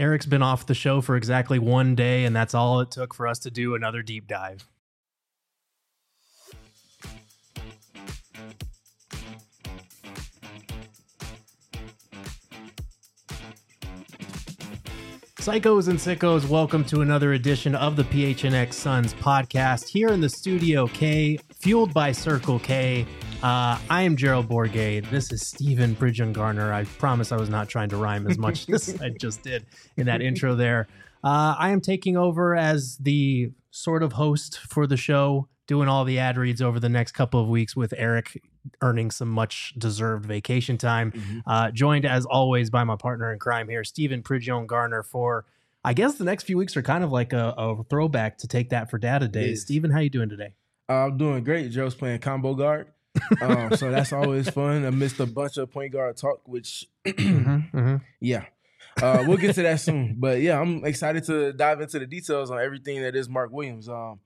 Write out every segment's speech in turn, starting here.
Eric's been off the show for exactly 1 day, and that's all it took for us to do another deep dive. Psychos and sickos, welcome to another edition of the PHNX Suns podcast here in the Studio K, fueled by Circle K. I am Gerald Bourget. This is Stephen Bridgen-Garner. I promise I was not trying to rhyme as much as I just did in that intro there. I am taking over as the sort of host for the show, doing all the ad reads over the next couple of weeks with Eric earning some much deserved vacation time. Joined as always by my partner in crime here, Stephen Bridgen-Garner, for I guess the next few weeks are kind of like a throwback to Take That for Data days. Stephen, how you doing today? I'm doing great. Joe's playing combo guard. So that's always fun. I missed a bunch of point guard talk, which yeah. We'll get to that soon. But yeah, I'm excited to dive into the details on everything that is Mark Williams.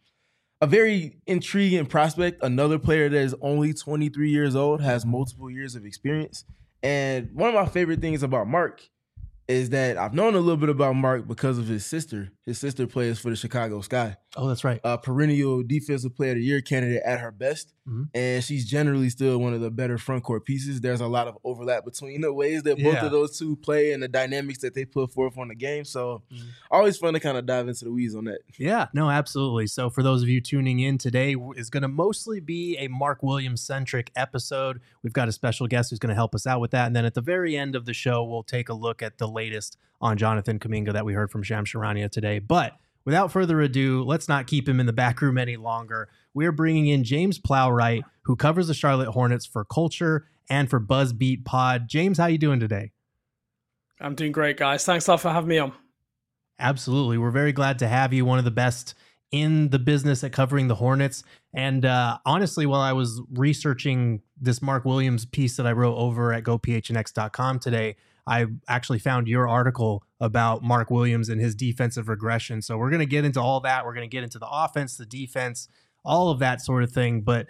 A very intriguing prospect, another player that is only 23 years old, has multiple years of experience. And one of my favorite things about Mark is that I've known a little bit about Mark because of his sister. His sister plays for the Chicago Sky. Oh, that's right. Perennial Defensive Player of the Year candidate at her best. And she's generally still one of the better front court pieces. There's a lot of overlap between the ways that both of those two play and the dynamics that they put forth on the game. So always fun to kind of dive into the weeds on that. Yeah, no, absolutely. So for those of you tuning in, today is going to mostly be a Mark Williams-centric episode. We've got a special guest who's going to help us out with that. And then at the very end of the show, we'll take a look at the latest on Jonathan Kuminga that we heard from Shams Charania today. But without further ado, let's not keep him in the back room any longer. We're bringing in James Plowright, who covers the Charlotte Hornets for Culture and for BuzzBeat Pod. James, how you doing today? I'm doing great, guys. Thanks a lot for having me on. Absolutely. We're very glad to have you, one of the best in the business at covering the Hornets. And honestly, while I was researching this Mark Williams piece that I wrote over at gophnx.com today, I actually found your article about Mark Williams and his defensive regression. So we're going to get into all that. We're going to get into the offense, the defense, all of that sort of thing. But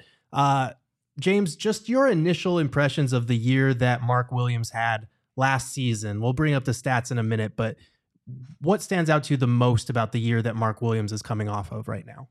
James, just your initial impressions of the year that Mark Williams had last season. We'll bring up the stats in a minute, but what stands out to you the most about the year that Mark Williams is coming off of right now?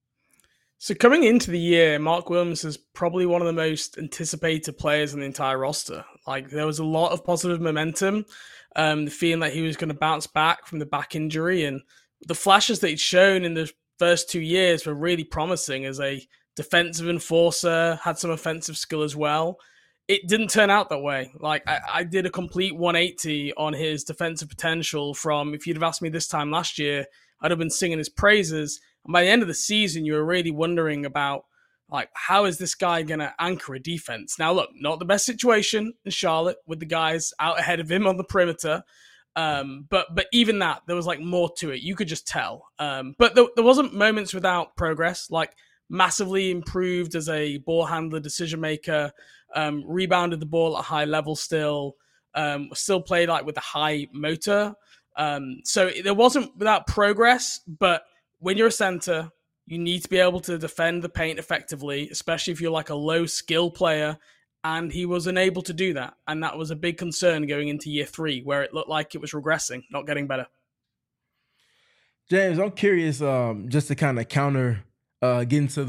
So coming into the year, Mark Williams is probably one of the most anticipated players in the entire roster. Like, there was a lot of positive momentum, the feeling that he was going to bounce back from the back injury, and the flashes that he'd shown in the first 2 years were really promising as a defensive enforcer, had some offensive skill as well. It didn't turn out that way. Like, I did a complete 180 on his defensive potential from, if you'd have asked me this time last year, I'd have been singing his praises. And by the end of the season, you were really wondering about, like, how is this guy going to anchor a defense? Now, look, not the best situation in Charlotte with the guys out ahead of him on the perimeter. But even that, there was like more to it. You could just tell. But there wasn't moments without progress, like massively improved as a ball handler, decision maker, rebounded the ball at a high level still played like with a high motor. So there wasn't without progress, but when you're a center, you need to be able to defend the paint effectively, especially if you're like a low skill player. And he was unable to do that. And that was a big concern going into year 3, where it looked like it was regressing, not getting better. James, I'm curious, just to kind of counter, get into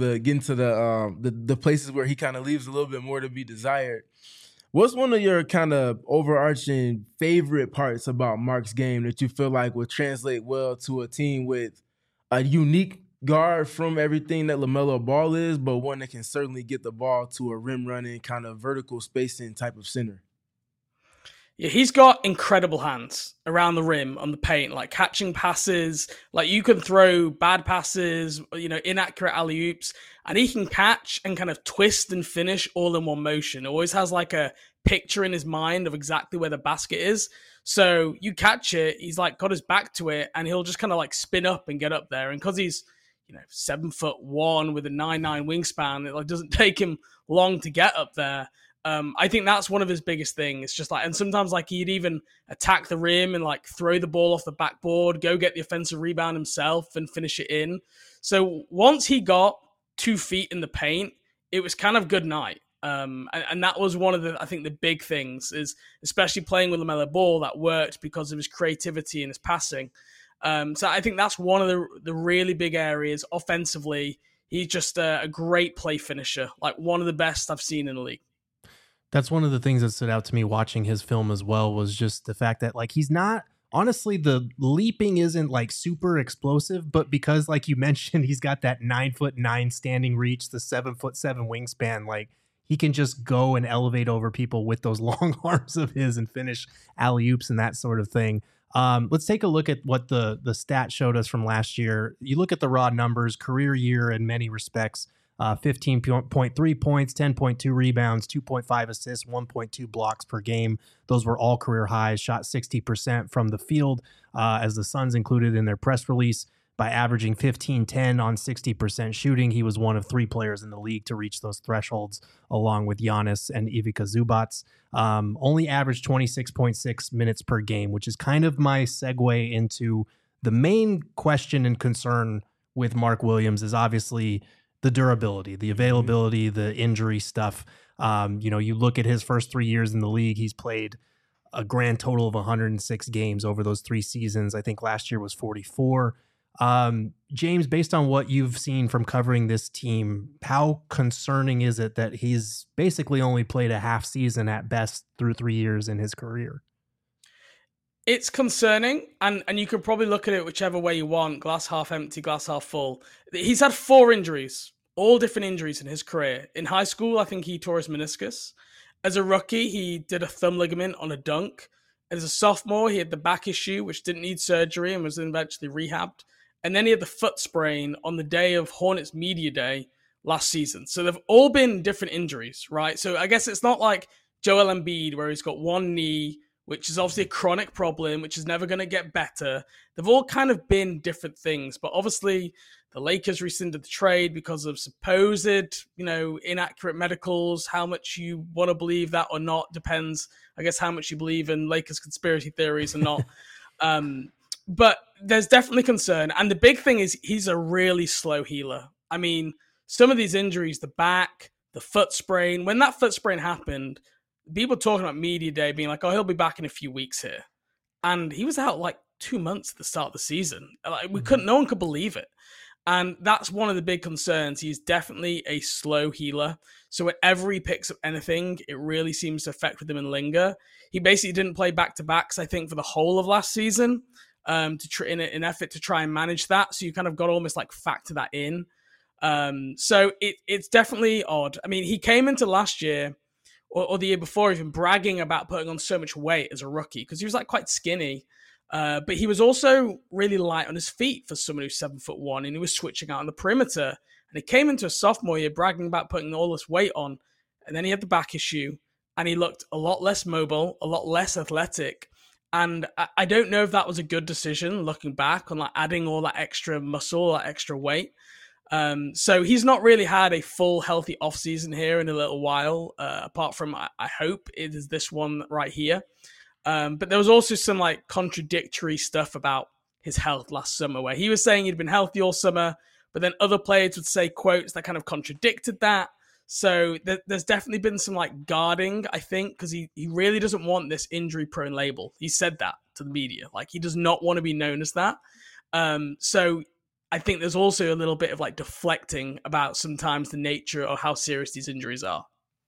the places where he kind of leaves a little bit more to be desired. What's one of your kind of overarching favorite parts about Mark's game that you feel like would translate well to a team with a unique guard from everything that LaMelo Ball is, but one that can certainly get the ball to a rim-running, kind of vertical spacing type of center? Yeah, he's got incredible hands around the rim on the paint, like catching passes. Like, you can throw bad passes, inaccurate alley-oops, and he can catch and kind of twist and finish all in one motion. Always has like a picture in his mind of exactly where the basket is. So you catch it, he's like got his back to it, and he'll just kind of like spin up and get up there. And because he's 7'1" with a 9'9" wingspan, it like doesn't take him long to get up there. I think that's one of his biggest things. It's just like, and sometimes like he'd even attack the rim and like throw the ball off the backboard, go get the offensive rebound himself and finish it in. So once he got 2 feet in the paint, it was kind of good night. And that was one of I think the big things is, especially playing with LaMelo Ball, that worked because of his creativity and his passing. So I think that's one of the really big areas offensively. He's just a great play finisher, like one of the best I've seen in the league. That's one of the things that stood out to me watching his film as well, was just the fact that like he's not, honestly, the leaping isn't like super explosive, but because like you mentioned, he's got that 9'9" standing reach, the 7'7" wingspan, like he can just go and elevate over people with those long arms of his and finish alley-oops and that sort of thing. Let's take a look at what the stat showed us from last year. You look at the raw numbers, career year in many respects, 15.3 points, 10.2 rebounds, 2.5 assists, 1.2 blocks per game. Those were all career highs, shot 60% from the field, as the Suns included in their press release. By averaging 15-10 on 60% shooting, he was one of 3 players in the league to reach those thresholds, along with Giannis and Ivica Zubac. Only averaged 26.6 minutes per game, which is kind of my segue into the main question and concern with Mark Williams is obviously the durability, the availability, the injury stuff. You look at his first 3 years in the league, he's played a grand total of 106 games over those 3 seasons. I think last year was 44. James, based on what you've seen from covering this team, how concerning is it that he's basically only played a half season at best through 3 years in his career? It's concerning, and you can probably look at it whichever way you want, glass half empty, glass half full. He's had 4 injuries, all different injuries in his career. In high school, I think he tore his meniscus. As a rookie, he did a thumb ligament on a dunk. As a sophomore, he had the back issue, which didn't need surgery and was eventually rehabbed. And then he had the foot sprain on the day of Hornets Media Day last season. So they've all been different injuries, right? So I guess it's not like Joel Embiid, where he's got one knee, which is obviously a chronic problem, which is never going to get better. They've all kind of been different things. But obviously, the Lakers rescinded the trade because of supposed, inaccurate medicals. How much you want to believe that or not depends, I guess, how much you believe in Lakers conspiracy theories or not. But there's definitely concern. And the big thing is he's a really slow healer. I mean, some of these injuries, the back, the foot sprain, when that foot sprain happened, people talking about media day being like, oh, he'll be back in a few weeks here. And he was out like 2 months at the start of the season. Like no one could believe it. And that's one of the big concerns. He's definitely a slow healer. So whenever he picks up anything, it really seems to affect with him and linger. He basically didn't play back-to-backs, I think, for the whole of last season. In an effort to try and manage that. So you kind of got to almost like factor that in. So it's definitely odd. I mean, he came into last year or the year before even bragging about putting on so much weight as a rookie because he was like quite skinny. But he was also really light on his feet for someone who's 7'1", and he was switching out on the perimeter. And he came into a sophomore year bragging about putting all this weight on. And then he had the back issue and he looked a lot less mobile, a lot less athletic. And I don't know if that was a good decision looking back on like adding all that extra muscle, that extra weight. So he's not really had a full healthy offseason here in a little while, apart from, I hope it is this one right here. But there was also some like contradictory stuff about his health last summer where he was saying he'd been healthy all summer, but then other players would say quotes that kind of contradicted that. So there's definitely been some like guarding, I think, because he really doesn't want this injury prone label. He said that to the media. Like he does not want to be known as that. So I think there's also a little bit of like deflecting about sometimes the nature or how serious these injuries are.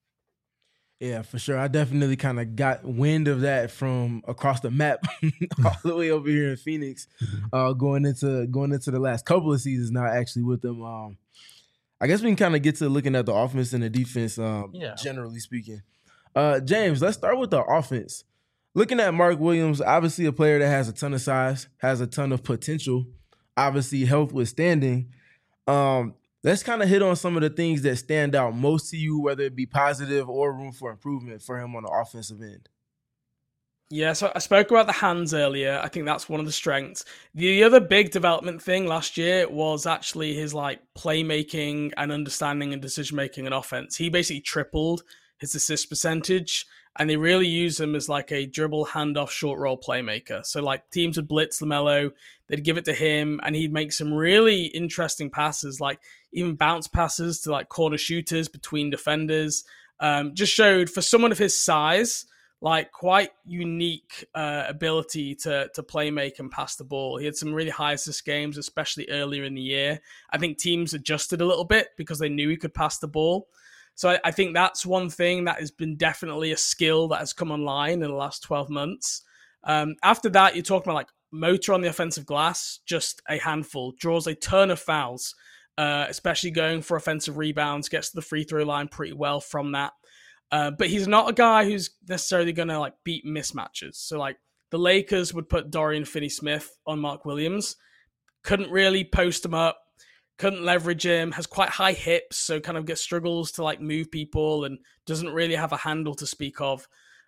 Yeah, for sure. I definitely kind of got wind of that from across the map, all the way over here in Phoenix, going into the last couple of seasons now, actually with them. I guess we can kind of get to looking at the offense and the defense, generally speaking. James, let's start with the offense. Looking at Mark Williams, obviously a player that has a ton of size, has a ton of potential, obviously health withstanding. Let's kind of hit on some of the things that stand out most to you, whether it be positive or room for improvement for him on the offensive end. Yeah, so I spoke about the hands earlier. I think that's one of the strengths. The other big development thing last year was actually his like playmaking and understanding and decision-making and offense. He basically tripled his assist percentage, and they really use him as like a dribble, handoff, short roll playmaker. So like teams would blitz LaMelo, they'd give it to him, and he'd make some really interesting passes, like even bounce passes to like corner shooters between defenders. Just showed for someone of his size, like quite unique ability to play make and pass the ball. He had some really high assist games, especially earlier in the year. I think teams adjusted a little bit because they knew he could pass the ball. So I think that's one thing that has been definitely a skill that has come online in the last 12 months. After that, you're talking about like motor on the offensive glass, just a handful, draws a ton of fouls, especially going for offensive rebounds, gets to the free throw line pretty well from that. But he's not a guy who's necessarily going to like beat mismatches. So like the Lakers would put Dorian Finney-Smith on Mark Williams, couldn't really post him up, couldn't leverage him, has quite high hips, so kind of gets struggles to like move people and doesn't really have a handle to speak of.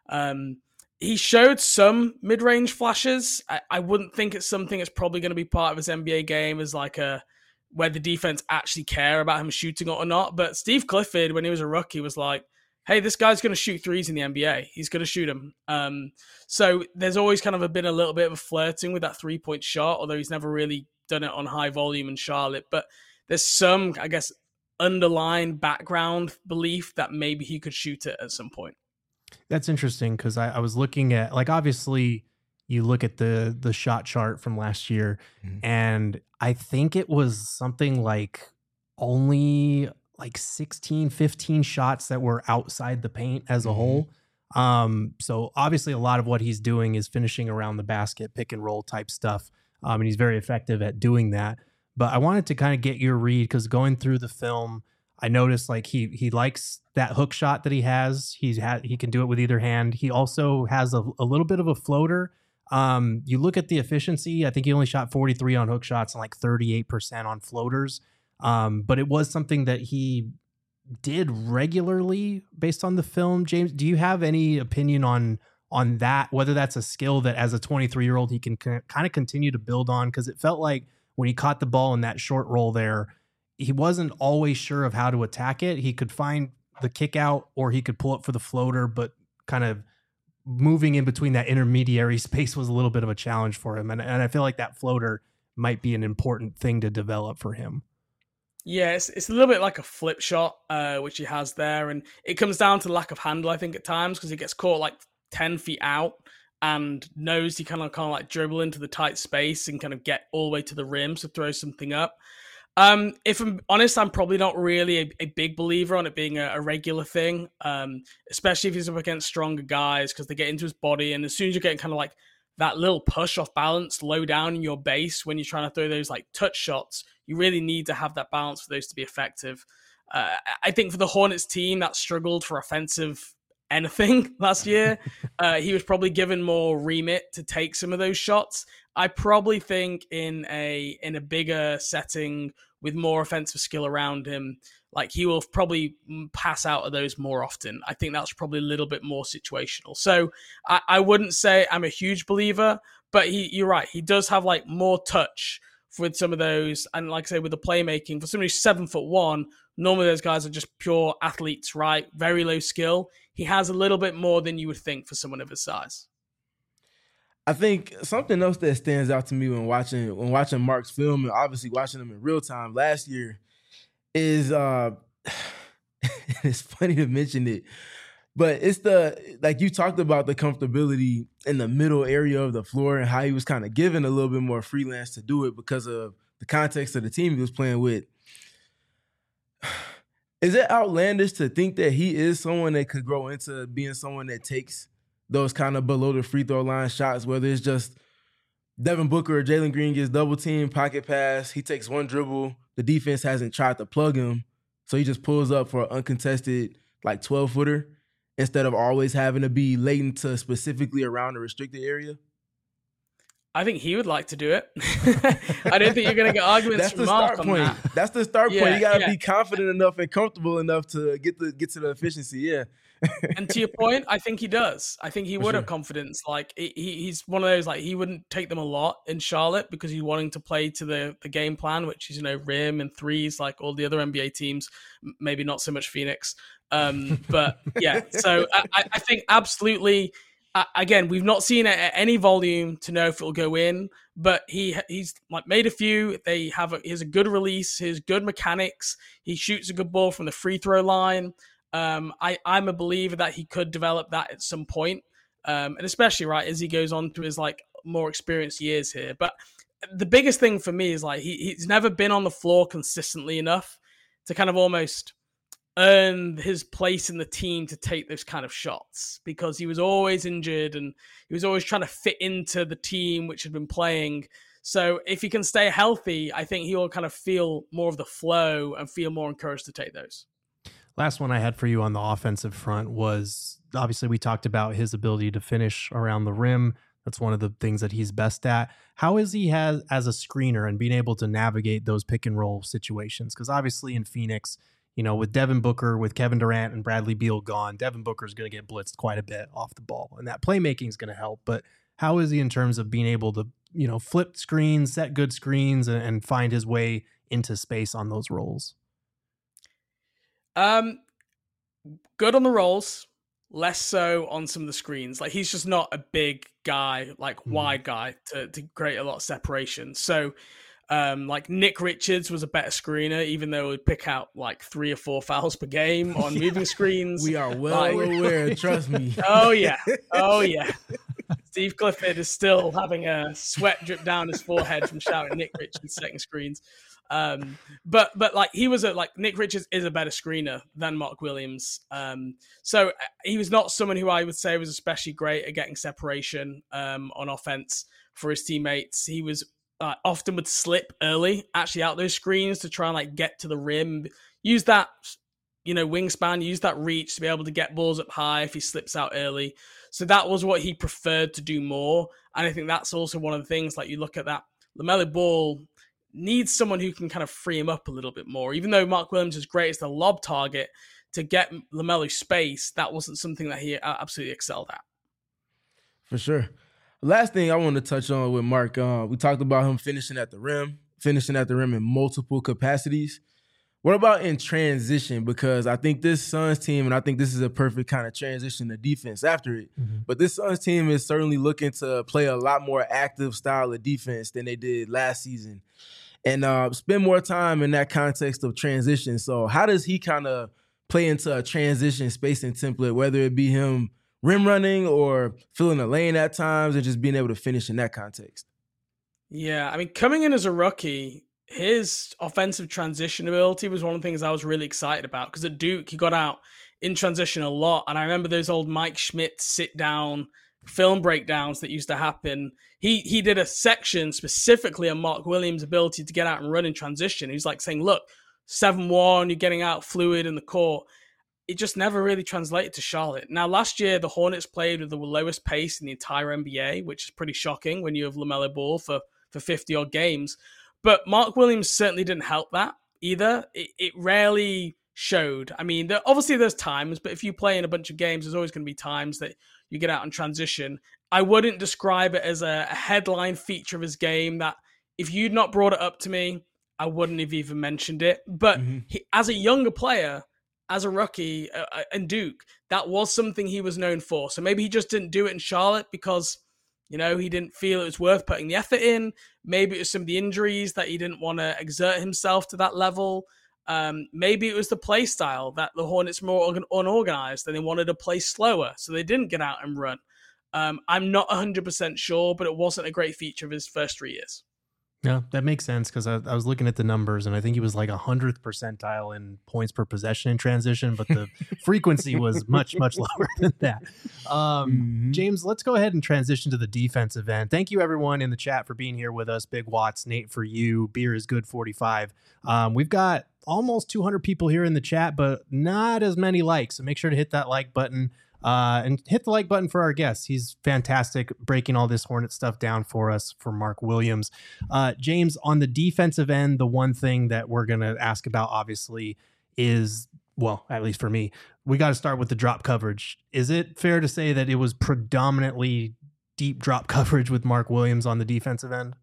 He showed some mid-range flashes. I wouldn't think it's something that's probably going to be part of his NBA game as like where the defense actually care about him shooting it or not. But Steve Clifford, when he was a rookie, was like, hey, this guy's going to shoot threes in the NBA. He's going to shoot them. So there's always kind of been a little bit of a flirting with that three-point shot, although he's never really done it on high volume in Charlotte. But there's some, I guess, underlying background belief that maybe he could shoot it at some point. That's interesting because I was looking at, like, obviously you look at the shot chart from last year, and I think it was something like only like 16, 15 shots that were outside the paint as a whole. So obviously a lot of what he's doing is finishing around the basket, pick and roll type stuff. And he's very effective at doing that. But I wanted to kind of get your read because going through the film, I noticed like he likes that hook shot that he has. He can do it with either hand. He also has a little bit of a floater. You look at the efficiency. I think he only shot 43 on hook shots and like 38% on floaters. But it was something that he did regularly based on the film. James, do you have any opinion on that, whether that's a skill that as a 23-year-old he can kind of continue to build on? Because it felt like when he caught the ball in that short roll there, he wasn't always sure of how to attack it. He could find the kick out or he could pull up for the floater, but kind of moving in between that intermediary space was a little bit of a challenge for him. And I feel like that floater might be an important thing to develop for him. Yeah, it's a little bit like a flip shot, which he has there. And it comes down to lack of handle, I think, at times, because he gets caught like 10 feet out and knows he kind of like dribble into the tight space and kind of get all the way to the rim to throw something up. If I'm honest, I'm probably not really a big believer on it being a regular thing, especially if he's up against stronger guys because they get into his body. And as soon as you're getting kind of like that little push off balance low down in your base when you're trying to throw those like touch shots, you really need to have that balance for those to be effective. I think for the Hornets team that struggled for offensive anything last year, he was probably given more remit to take some of those shots. I probably think in a bigger setting with more offensive skill around him, like he will probably pass out of those more often. I think that's probably a little bit more situational. So I wouldn't say I'm a huge believer, but you're right. He does have like more touch with some of those. And like I say, with the playmaking, for somebody who's 7'1", normally those guys are just pure athletes, right? Very low skill. He has a little bit more than you would think for someone of his size. I think something else that stands out to me when watching Mark's film and obviously watching him in real time last year is it's funny to mention it, but it's like you talked about the comfortability in the middle area of the floor and how he was kind of given a little bit more freelance to do it because of the context of the team he was playing with. Is it outlandish to think that he is someone that could grow into being someone that takes those kind of below the free throw line shots, whether it's just Devin Booker or Jalen Green gets double team, pocket pass, he takes one dribble, the defense hasn't tried to plug him, so he just pulls up for an uncontested like 12-footer instead of always having to be latent to specifically around the restricted area? I think he would like to do it. I don't think you're going to get arguments from Mark on that. That's the start point. You got to be confident enough and comfortable enough to get to the efficiency. Yeah. And to your point, I think he does. I think he would have confidence. Like he's one of those, like he wouldn't take them a lot in Charlotte because he's wanting to play to the game plan, which is, rim and threes like all the other NBA teams, maybe not so much Phoenix. But yeah, so I think absolutely. Again, we've not seen it at any volume to know if it'll go in, but he's like made a few. He has a good release, his good mechanics. He shoots a good ball from the free throw line. I'm a believer that he could develop that at some point, and especially right as he goes on to his like more experienced years here. But the biggest thing for me is like he's never been on the floor consistently enough to kind of almost earn his place in the team to take those kind of shots, because he was always injured and he was always trying to fit into the team which had been playing. So if he can stay healthy, I think he'll kind of feel more of the flow and feel more encouraged to take those. Last one I had for you on the offensive front was, obviously we talked about his ability to finish around the rim. That's one of the things that he's best at. How is he as a screener and being able to navigate those pick and roll situations? Because obviously in Phoenix, with Devin Booker, with Kevin Durant and Bradley Beal gone, Devin Booker is going to get blitzed quite a bit off the ball, and that playmaking is going to help. But how is he in terms of being able to, flip screens, set good screens, and find his way into space on those rolls? Good on the rolls, less so on some of the screens. Like he's just not a big guy, like wide guy to create a lot of separation. So like Nick Richards was a better screener, even though he'd pick out like 3 or 4 fouls per game on moving screens. We are well aware, trust me. Oh yeah. Steve Clifford is still having a sweat drip down his forehead from shouting Nick Richards setting screens. But like he was Nick Richards is a better screener than Mark Williams. So he was not someone who I would say was especially great at getting separation on offense for his teammates. He was often would slip early, actually out those screens to try and like get to the rim, use that wingspan, use that reach to be able to get balls up high if he slips out early. So that was what he preferred to do more. And I think that's also one of the things, like you look at that, LaMelo Ball needs someone who can kind of free him up a little bit more. Even though Mark Williams is great as the lob target, to get LaMelo space, that wasn't something that he absolutely excelled at. For sure. Last thing I want to touch on with Mark, we talked about him finishing at the rim in multiple capacities. What about in transition? Because I think this Suns team, and I think this is a perfect kind of transition to defense after it, but this Suns team is certainly looking to play a lot more active style of defense than they did last season, and spend more time in that context of transition. So how does he kind of play into a transition spacing template, whether it be him rim running or filling a lane at times and just being able to finish in that context? Yeah, I mean, coming in as a rookie, his offensive transition ability was one of the things I was really excited about, because at Duke, he got out in transition a lot. And I remember those old Mike Schmidt sit-down film breakdowns that used to happen. He did a section specifically on Mark Williams' ability to get out and run in transition. He was like saying, look, 7-1, you're getting out fluid in the court. It just never really translated to Charlotte. Now, last year, the Hornets played with the lowest pace in the entire NBA, which is pretty shocking when you have LaMelo Ball for 50-odd games. But Mark Williams certainly didn't help that either. It rarely showed. I mean, obviously there's times, but if you play in a bunch of games, there's always going to be times that you get out in transition. I wouldn't describe it as a headline feature of his game that if you'd not brought it up to me, I wouldn't have even mentioned it. But he, as a younger player, as a rookie in Duke, that was something he was known for. So maybe he just didn't do it in Charlotte because, he didn't feel it was worth putting the effort in. Maybe it was some of the injuries that he didn't want to exert himself to that level. Maybe it was the play style that the Hornets were more unorganized and they wanted to play slower, so they didn't get out and run. I'm not 100% sure, but it wasn't a great feature of his first 3 years. Yeah, that makes sense, because I was looking at the numbers and I think he was like 100th percentile in points per possession in transition, but the frequency was much, much lower than that. James, let's go ahead and transition to the defensive end. Thank you, everyone in the chat, for being here with us. Big Watts, Nate, for you. Beer is good 45. We've got almost 200 people here in the chat, but not as many likes. So make sure to hit that like button. And hit the like button for our guest. He's fantastic breaking all this Hornet stuff down for us, for Mark Williams. James, on the defensive end, the one thing that we're going to ask about, obviously, is, well, at least for me, we got to start with the drop coverage. Is it fair to say that it was predominantly deep drop coverage with Mark Williams on the defensive end?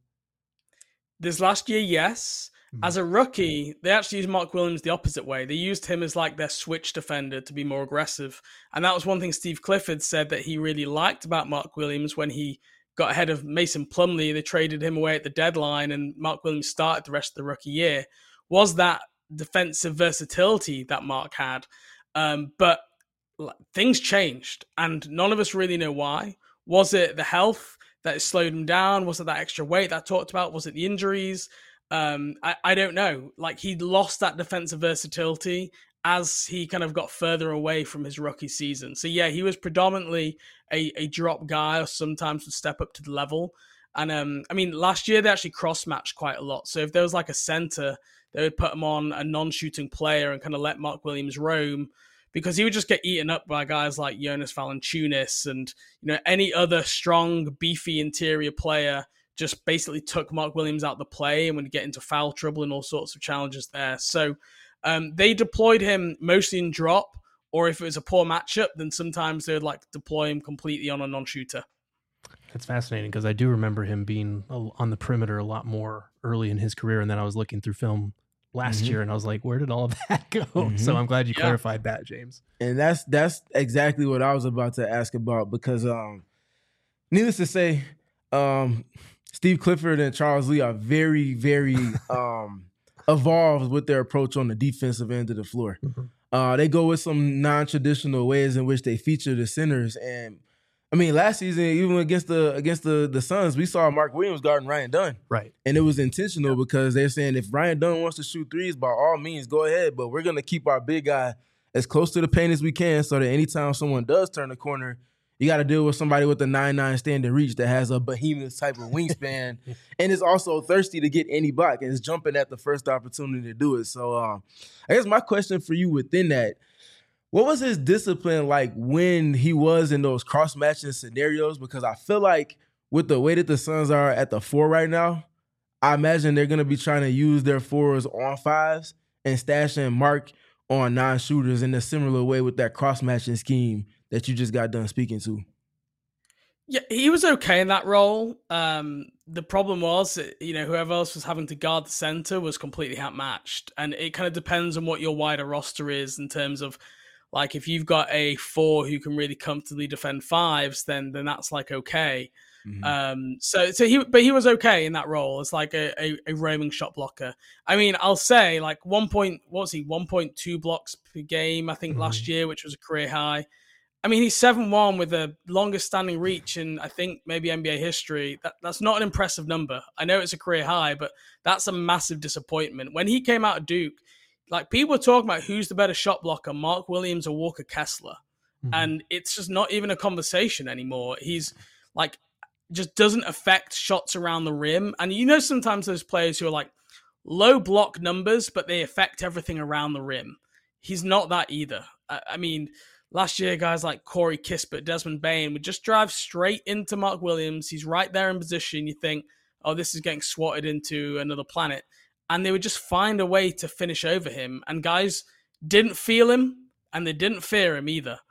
This last year, yes. As a rookie, they actually used Mark Williams the opposite way. They used him as like their switch defender to be more aggressive. And that was one thing Steve Clifford said that he really liked about Mark Williams when he got ahead of Mason Plumlee. They traded him away at the deadline and Mark Williams started the rest of the rookie year, was that defensive versatility that Mark had. But things changed, and none of us really know why. Was it the health that slowed him down? Was it that extra weight that I talked about? Was it the injuries? I don't know. Like, he lost that defensive versatility as he kind of got further away from his rookie season. So yeah, he was predominantly a drop guy, or sometimes would step up to the level. And I mean, last year they actually cross-matched quite a lot. So if there was like a center, they would put him on a non-shooting player and kind of let Mark Williams roam, because he would just get eaten up by guys like Jonas Valanciunas and, you know, any other strong, beefy interior player. Just basically took Mark Williams out of the play and would get into foul trouble and all sorts of challenges there. So they deployed him mostly in drop, or if it was a poor matchup, then sometimes they would like deploy him completely on a non-shooter. That's fascinating, because I do remember him being on the perimeter a lot more early in his career. And then I was looking through film last year and I was like, where did all of that go? So I'm glad you clarified that, James. And that's exactly what I was about to ask about, because needless to say, Steve Clifford and Charles Lee are very, very evolved with their approach on the defensive end of the floor. They go with some non-traditional ways in which they feature the centers. And I mean, last season, even against the Suns, we saw Mark Williams guarding Ryan Dunn. Right. And it was intentional, because they're saying if Ryan Dunn wants to shoot threes, by all means, go ahead. But we're going to keep our big guy as close to the paint as we can, so that anytime someone does turn the corner, you got to deal with somebody with a 9'9" standing reach that has a behemoth type of wingspan and is also thirsty to get any block and is jumping at the first opportunity to do it. So I guess my question for you within that, what was his discipline like when he was in those cross-matching scenarios? Because I feel like with the way that the Suns are at the 4 right now, I imagine they're going to be trying to use their 4s on 5s and stashing Mark on non-shooters in a similar way with that cross-matching scheme that you just got done speaking to. Yeah, he was okay in that role. The problem was, you know, whoever else was having to guard the center was completely outmatched. And it kind of depends on what your wider roster is in terms of, like, if you've got a 4 who can really comfortably defend 5s, then that's like okay. So he was okay in that role as like a roaming shot blocker. I mean, I'll say like 1.2 blocks per game, I think last year, which was a career high. I mean, he's 7'1" with the longest standing reach in, I think, maybe NBA history. That's not an impressive number. I know it's a career high, but that's a massive disappointment. When he came out of Duke, like, people were talking about who's the better shot blocker, Mark Williams or Walker Kessler. And it's just not even a conversation anymore. He's like, just doesn't affect shots around the rim. And you know, sometimes those players who are like low block numbers, but they affect everything around the rim. He's not that either. I mean, last year, guys like Corey Kispert, Desmond Bane would just drive straight into Mark Williams. He's right there in position. You think, oh, this is getting swatted into another planet. And they would just find a way to finish over him. And guys didn't feel him, and they didn't fear him either.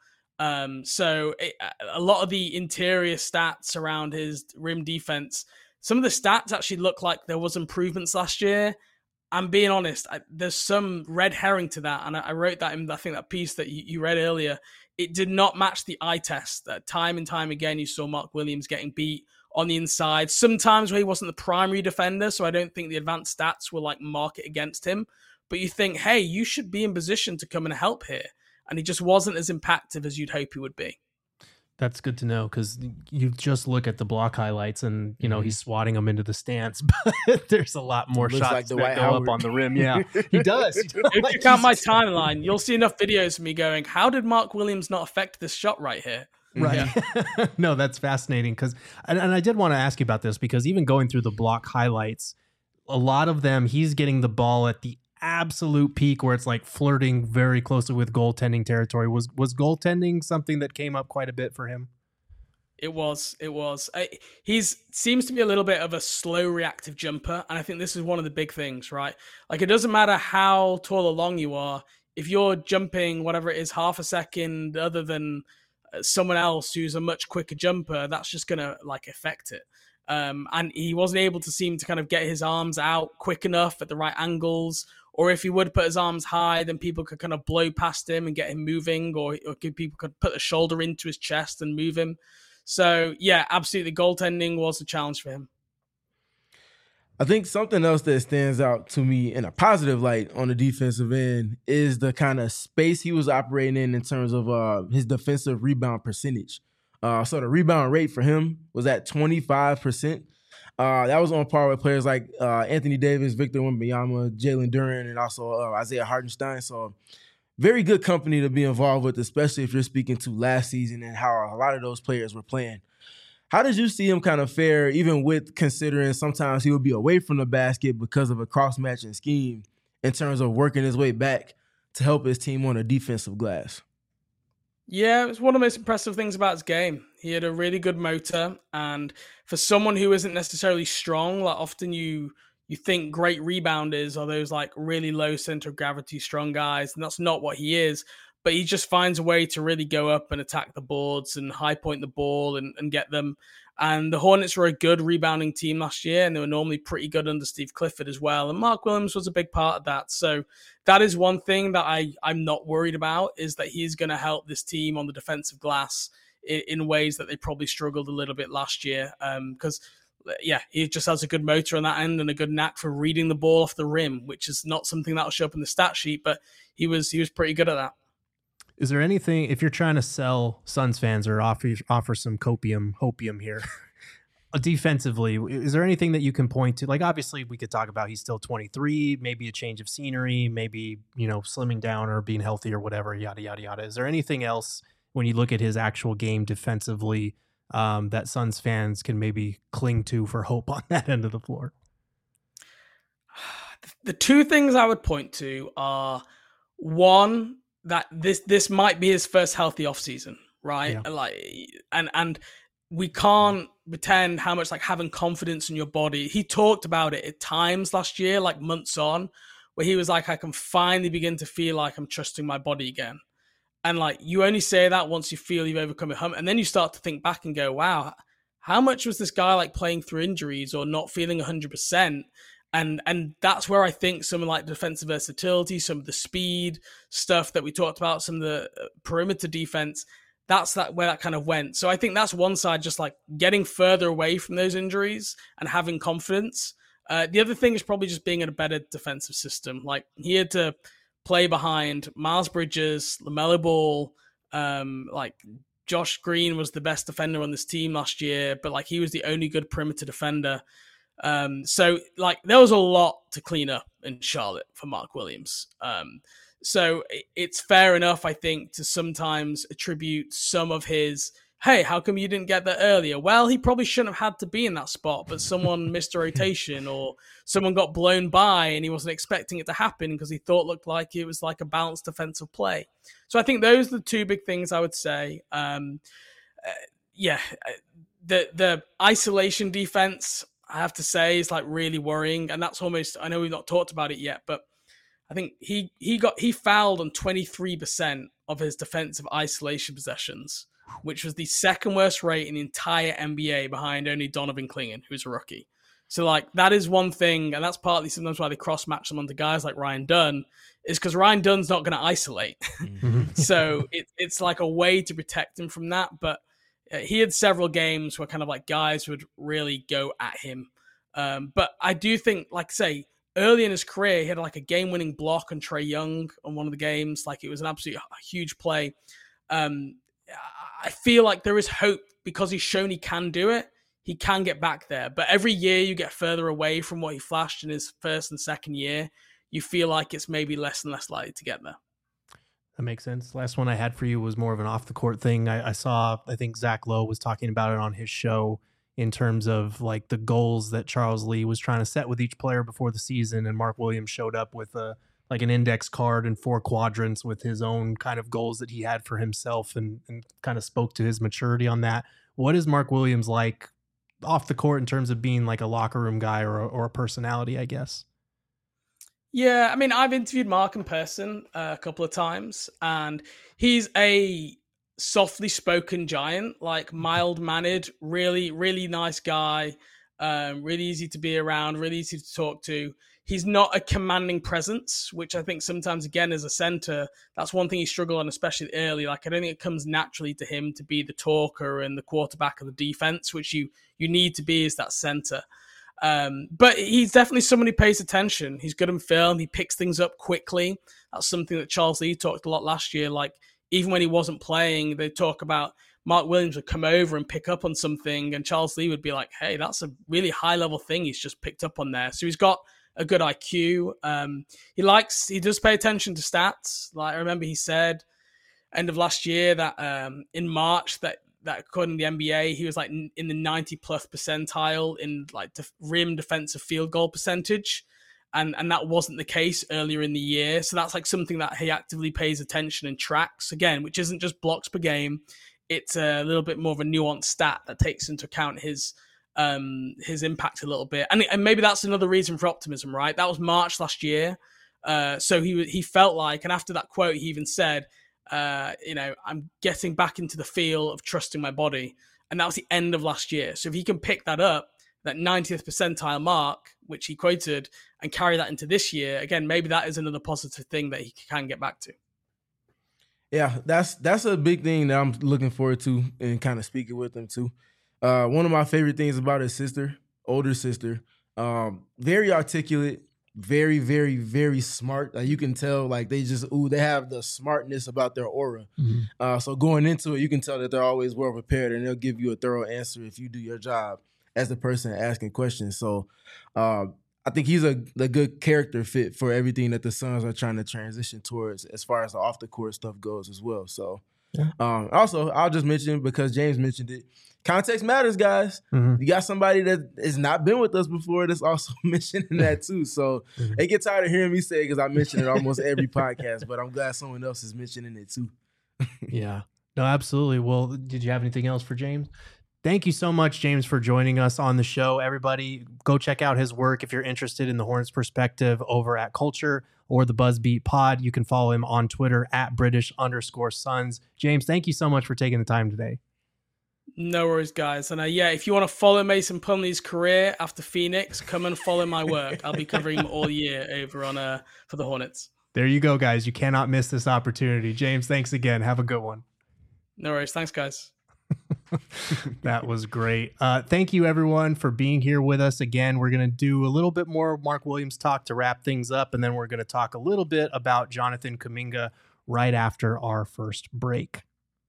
So a lot of the interior stats around his rim defense, some of the stats actually look like there was improvements last year. I'm being honest, there's some red herring to that. And I wrote that in, I think, that piece that you read earlier. It did not match the eye test. Time and time again, you saw Mark Williams getting beat on the inside, sometimes where he wasn't the primary defender. So I don't think the advanced stats will like mark it against him. But you think, hey, you should be in position to come and help here. And he just wasn't as impactful as you'd hope he would be. That's good to know, because you just look at the block highlights and, you know, he's swatting them into the stance, but there's a lot more shots like that go up on the rim. Yeah, he does. If you check out my timeline, you'll see enough videos of me going, how did Mark Williams not affect this shot right here? Right. Yeah. No, that's fascinating. And I did want to ask you about this, because even going through the block highlights, a lot of them, he's getting the ball at the absolute peak where it's like flirting very closely with goaltending territory. Was goaltending something that came up quite a bit for him? It was. He's seems to be a little bit of a slow reactive jumper. And I think this is one of the big things, right? Like, it doesn't matter how tall or long you are. If you're jumping, whatever it is, half a second other than someone else who's a much quicker jumper, that's just going to like affect it. And he wasn't able to seem to kind of get his arms out quick enough at the right angles. Or if he would put his arms high, then people could kind of blow past him and get him moving, or people could put a shoulder into his chest and move him. So, yeah, absolutely. Goaltending was a challenge for him. I think something else that stands out to me in a positive light on the defensive end is the kind of space he was operating in terms of his defensive rebound percentage. So the rebound rate for him was at 25%. That was on par with players like Anthony Davis, Victor Wembanyama, Jalen Duren, and also Isaiah Hartenstein. So very good company to be involved with, especially if you're speaking to last season and how a lot of those players were playing. How did you see him kind of fare, even with considering sometimes he would be away from the basket because of a cross-matching scheme in terms of working his way back to help his team on a defensive glass? Yeah, it's one of the most impressive things about his game. He had a really good motor, and for someone who isn't necessarily strong, like often you think great rebounders are those like really low center of gravity strong guys, and that's not what he is. But he just finds a way to really go up and attack the boards and high point the ball and get them. And the Hornets were a good rebounding team last year, and they were normally pretty good under Steve Clifford as well. And Mark Williams was a big part of that. So that is one thing that I'm not worried about, is that he's going to help this team on the defensive glass in ways that they probably struggled a little bit last year. Because he just has a good motor on that end and a good knack for reading the ball off the rim, which is not something that'll show up in the stat sheet, but he was pretty good at that. Is there anything, if you're trying to sell Suns fans or offer some hopium here, defensively, is there anything that you can point to? Like, obviously, we could talk about he's still 23, maybe a change of scenery, maybe, slimming down or being healthy or whatever, yada, yada, yada. Is there anything else when you look at his actual game defensively that Suns fans can maybe cling to for hope on that end of the floor? The two things I would point to are, one, that this might be his first healthy offseason, right? Yeah. And we can't pretend how much like having confidence in your body. He talked about it at times last year, like months on, where he was like, I can finally begin to feel like I'm trusting my body again. And like, you only say that once you feel you've overcome a hump. And then you start to think back and go, wow, how much was this guy like playing through injuries or not feeling 100%? And that's where I think some of like defensive versatility, some of the speed stuff that we talked about, some of the perimeter defense, that's where that kind of went. So I think that's one side, just like getting further away from those injuries and having confidence. The other thing is probably just being in a better defensive system. Like he had to play behind Miles Bridges, LaMelo Ball, like Josh Green was the best defender on this team last year, but like he was the only good perimeter defender. So like there was a lot to clean up in Charlotte for Mark Williams. So it's fair enough, I think, to sometimes attribute some of his, hey, how come you didn't get there earlier? Well, he probably shouldn't have had to be in that spot, but someone missed a rotation or someone got blown by and he wasn't expecting it to happen because he thought looked like it was like a balanced defensive play. So I think those are the two big things I would say. The isolation defense, I have to say, is like really worrying. And that's almost, I know we've not talked about it yet, but I think he fouled on 23% of his defensive isolation possessions, which was the second worst rate in the entire NBA behind only Donovan Clingan, who's a rookie. So like that is one thing, and that's partly sometimes why they cross-match them onto guys like Ryan Dunn, is because Ryan Dunn's not going to isolate. So it's like a way to protect him from that. But he had several games where kind of like guys would really go at him. But I do think, like say, early in his career, he had like a game-winning block on Trae Young on one of the games. Like it was an absolute huge play. I feel like there is hope because he's shown he can do it. He can get back there. But every year you get further away from what he flashed in his first and second year, you feel like it's maybe less and less likely to get there. That makes sense. Last one I had for you was more of an off-the-court thing. I think Zach Lowe was talking about it on his show in terms of like the goals that Charles Lee was trying to set with each player before the season. And Mark Williams showed up with like an index card and 4 quadrants with his own kind of goals that he had for himself and kind of spoke to his maturity on that. What is Mark Williams like off the court in terms of being like a locker room guy or a personality, I guess? Yeah, I mean, I've interviewed Mark in person a couple of times, and he's a softly spoken giant, like mild-mannered, really, really nice guy, really easy to be around, really easy to talk to. He's not a commanding presence, which I think sometimes, again, as a center, that's one thing he struggled on, especially early. Like, I don't think it comes naturally to him to be the talker and the quarterback of the defense, which you need to be as that center. But he's definitely someone who pays attention. He's good in film. He picks things up quickly. That's something that Charles Lee talked a lot last year. Like, even when he wasn't playing, they talk about Mark Williams would come over and pick up on something, and Charles Lee would be like, hey, that's a really high-level thing he's just picked up on there. So he's got a good IQ. He does pay attention to stats. Like, I remember he said end of last year that in March that according to the NBA, he was like in the 90+ percentile in like rim defensive field goal percentage. And that wasn't the case earlier in the year. So that's like something that he actively pays attention and tracks, again, which isn't just blocks per game. It's a little bit more of a nuanced stat that takes into account his impact a little bit. And maybe that's another reason for optimism, right? That was March last year. So he felt like, and after that quote, he even said, I'm getting back into the feel of trusting my body. And that was the end of last year. So if he can pick that up, that 90th percentile mark, which he quoted, and carry that into this year, again, maybe that is another positive thing that he can get back to. Yeah, that's a big thing that I'm looking forward to and kind of speaking with him too. One of my favorite things about his sister, older sister, very articulate, very, very, very smart. You can tell, like, they have the smartness about their aura. Mm-hmm. So going into it, you can tell that they're always well prepared, and they'll give you a thorough answer if you do your job as the person asking questions. So I think he's a good character fit for everything that the Suns are trying to transition towards as far as the off the court stuff goes as well. So also, I'll just mention, because James mentioned it, context matters, guys. Mm-hmm. You got somebody that has not been with us before that's also mentioning that too. So they get tired of hearing me say it because I mention it almost every podcast, but I'm glad someone else is mentioning it too. Yeah, no, absolutely. Well, did you have anything else for James? Thank you so much, James, for joining us on the show. Everybody, go check out his work if you're interested in the Hornets perspective over at Culture or the Buzzbeat Pod. You can follow him on Twitter at British_Suns. James, thank you so much for taking the time today. No worries, guys. And if you want to follow Mason Plumlee's career after Phoenix, come and follow my work. I'll be covering him all year over on for the Hornets. There you go, guys. You cannot miss this opportunity. James, thanks again. Have a good one. No worries. Thanks, guys. That was great. Thank you, everyone, for being here with us again. We're going to do a little bit more Mark Williams talk to wrap things up, and then we're going to talk a little bit about Jonathan Kuminga right after our first break.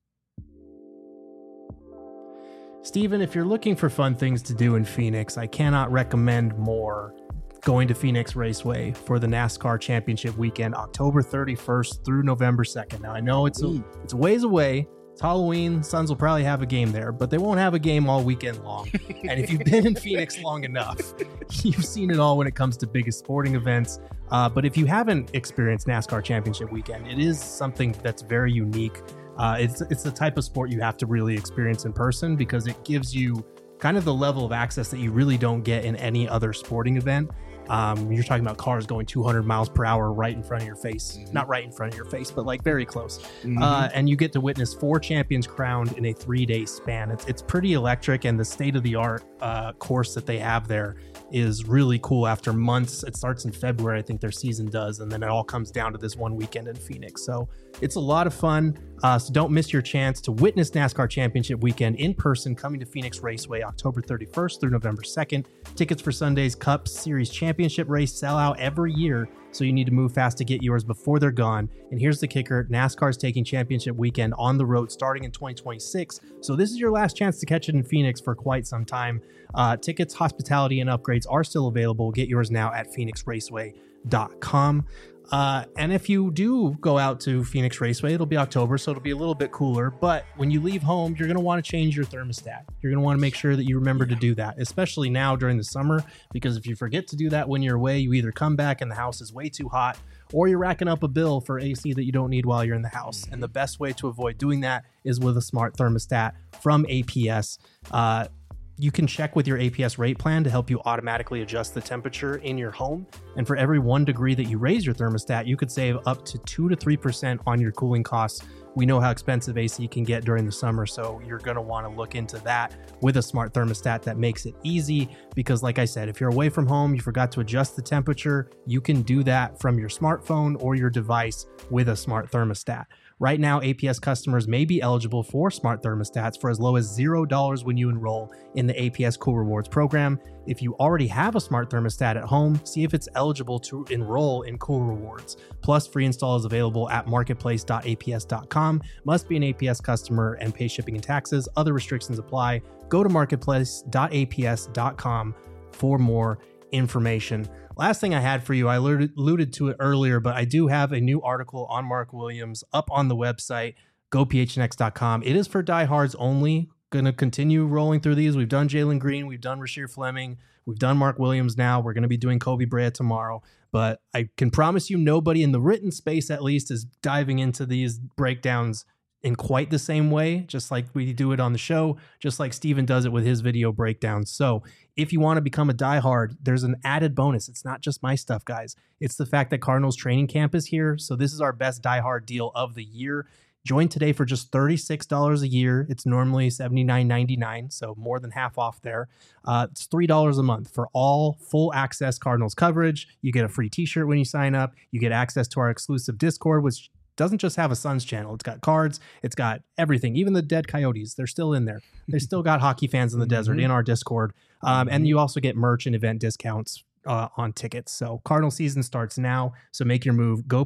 Steven, if you're looking for fun things to do in Phoenix, I cannot recommend more going to Phoenix Raceway for the NASCAR Championship weekend, October 31st through November 2nd. Now, I know it's a ways away. It's Halloween. Suns will probably have a game there, but they won't have a game all weekend long. And if you've been in Phoenix long enough, you've seen it all when it comes to biggest sporting events. But if you haven't experienced NASCAR Championship weekend, it is something that's very unique. It's the type of sport you have to really experience in person, because it gives you kind of the level of access that you really don't get in any other sporting event. You're talking about cars going 200 miles per hour right in front of your face. Mm-hmm. Not right in front of your face, but like very close. Mm-hmm. And you get to witness 4 champions crowned in a 3-day span. It's pretty electric, and the state-of-the-art course that they have there is really cool. After months, it starts in February, I think their season does, and then it all comes down to this one weekend in Phoenix. So it's a lot of fun. So don't miss your chance to witness NASCAR Championship weekend in person, coming to Phoenix Raceway October 31st through November 2nd. Tickets for Sunday's Cup Series Championship race sell out every year, so you need to move fast to get yours before they're gone. And here's the kicker: NASCAR is taking Championship weekend on the road starting in 2026, so this is your last chance to catch it in Phoenix for quite some time. Tickets, hospitality, and upgrades are still available. Get yours now at phoenixraceway.com. And if you do go out to Phoenix Raceway, it'll be October, so it'll be a little bit cooler. But when you leave home, you're going to want to change your thermostat. You're going to want to make sure that you remember to do that, especially now during the summer, because if you forget to do that when you're away, you either come back and the house is way too hot, or you're racking up a bill for AC that you don't need while you're in the house. And the best way to avoid doing that is with a smart thermostat from APS. You can check with your APS rate plan to help you automatically adjust the temperature in your home. And for every 1 degree that you raise your thermostat, you could save up to 2 to 3% on your cooling costs. We know how expensive AC can get during the summer, so you're going to want to look into that with a smart thermostat that makes it easy. Because like I said, if you're away from home, you forgot to adjust the temperature, you can do that from your smartphone or your device with a smart thermostat. Right now, APS customers may be eligible for smart thermostats for as low as $0 when you enroll in the APS Cool Rewards program. If you already have a smart thermostat at home, see if it's eligible to enroll in Cool Rewards. Plus, free install is available at marketplace.aps.com. Must be an APS customer and pay shipping and taxes. Other restrictions apply. Go to marketplace.aps.com for more information. Last thing I had for you, I alluded to it earlier, but I do have a new article on Mark Williams up on the website, gophnx.com. It is for diehards only. Going to continue rolling through these. We've done Jalen Green. We've done Rasheer Fleming. We've done Mark Williams now. We're going to be doing Kobe Bryant tomorrow. But I can promise you nobody in the written space, at least, is diving into these breakdowns in quite the same way, just like we do it on the show, just like Steven does it with his video breakdowns. So if you want to become a diehard, there's an added bonus. It's not just my stuff, guys. It's the fact that Cardinals training camp is here. So this is our best diehard deal of the year. Join today for just $36 a year. It's normally $79.99, so more than half off there. It's $3 a month for all full access Cardinals coverage. You get a free t-shirt when you sign up. You get access to our exclusive Discord, which doesn't just have a Suns channel. It's got cards. It's got everything. Even the dead Coyotes, they're still in there. They still got hockey fans in the desert in our Discord. And you also get merch and event discounts on tickets. So Cardinal season starts now. So make your move. Go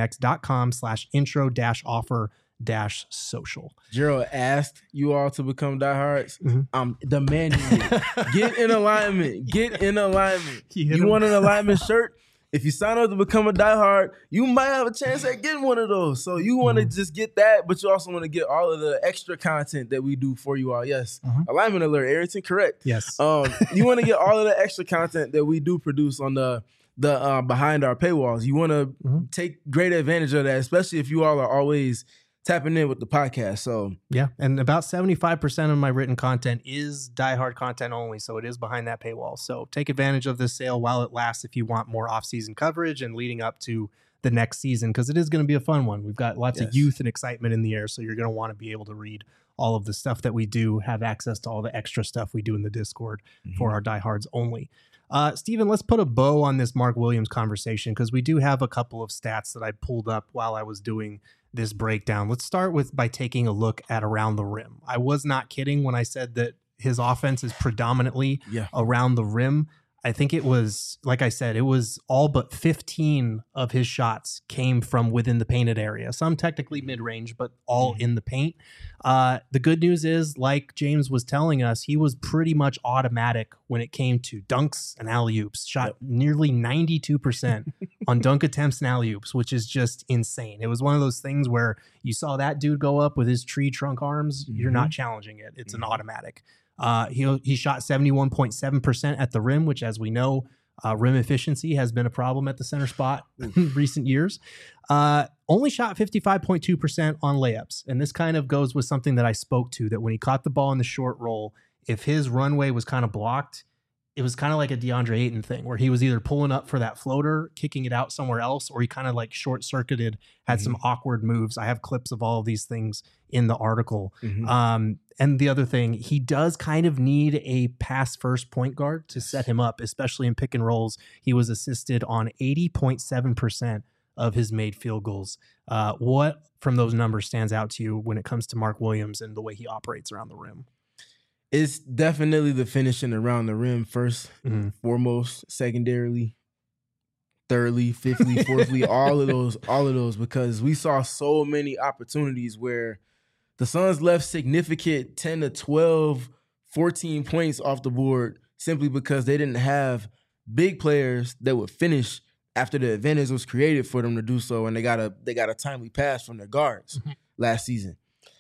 phnx.com/intro-offer-social. Gerald asked you all to become diehards. I'm demanding it. Get in alignment. Get in alignment. You want an alignment shirt? If you sign up to become a diehard, you might have a chance at getting one of those. So you want to just get that, but you also want to get all of the extra content that we do for you all. Yes. Alignment alert, Arrington, correct. Yes. You want to get all of the extra content that we do produce on the behind our paywalls. You want to take great advantage of that, especially if you all are always tapping in with the podcast. So yeah, and about 75% of my written content is diehard content only, so it is behind that paywall. So take advantage of this sale while it lasts if you want more off-season coverage and leading up to the next season, because it is going to be a fun one. We've got lots of youth and excitement in the air, so you're going to want to be able to read all of the stuff that we do, have access to all the extra stuff we do in the Discord for our diehards only. Steven, let's put a bow on this Mark Williams conversation, because we do have a couple of stats that I pulled up while I was doing this breakdown. Let's start by taking a look at around the rim. I was not kidding when I said that his offense is predominantly around the rim. I think it was, like I said, it was all but 15 of his shots came from within the painted area. Some technically mid-range, but all in the paint. The good news is, like James was telling us, he was pretty much automatic when it came to dunks and alley-oops. Shot nearly 92% on dunk attempts and alley-oops, which is just insane. It was one of those things where you saw that dude go up with his tree trunk arms. You're not challenging it. It's an automatic. He shot 71.7% at the rim, which, as we know, rim efficiency has been a problem at the center spot in recent years. Only shot 55.2% on layups. And this kind of goes with something that I spoke to, that when he caught the ball in the short roll, if his runway was kind of blocked, it was kind of like a DeAndre Ayton thing, where he was either pulling up for that floater, kicking it out somewhere else, or he kind of like short-circuited, had some awkward moves. I have clips of all of these things in the article. And the other thing, he does kind of need a pass-first point guard to set him up, especially in pick and rolls. He was assisted on 80.7% of his made field goals. What from those numbers stands out to you when it comes to Mark Williams and the way he operates around the rim? It's definitely the finishing around the rim first, foremost, secondarily, thirdly, fifthly, fourthly, all of those, because we saw so many opportunities where the Suns left significant 10 to 12, 14 points off the board simply because they didn't have big players that would finish after the advantage was created for them to do so, and they got a timely pass from their guards last season.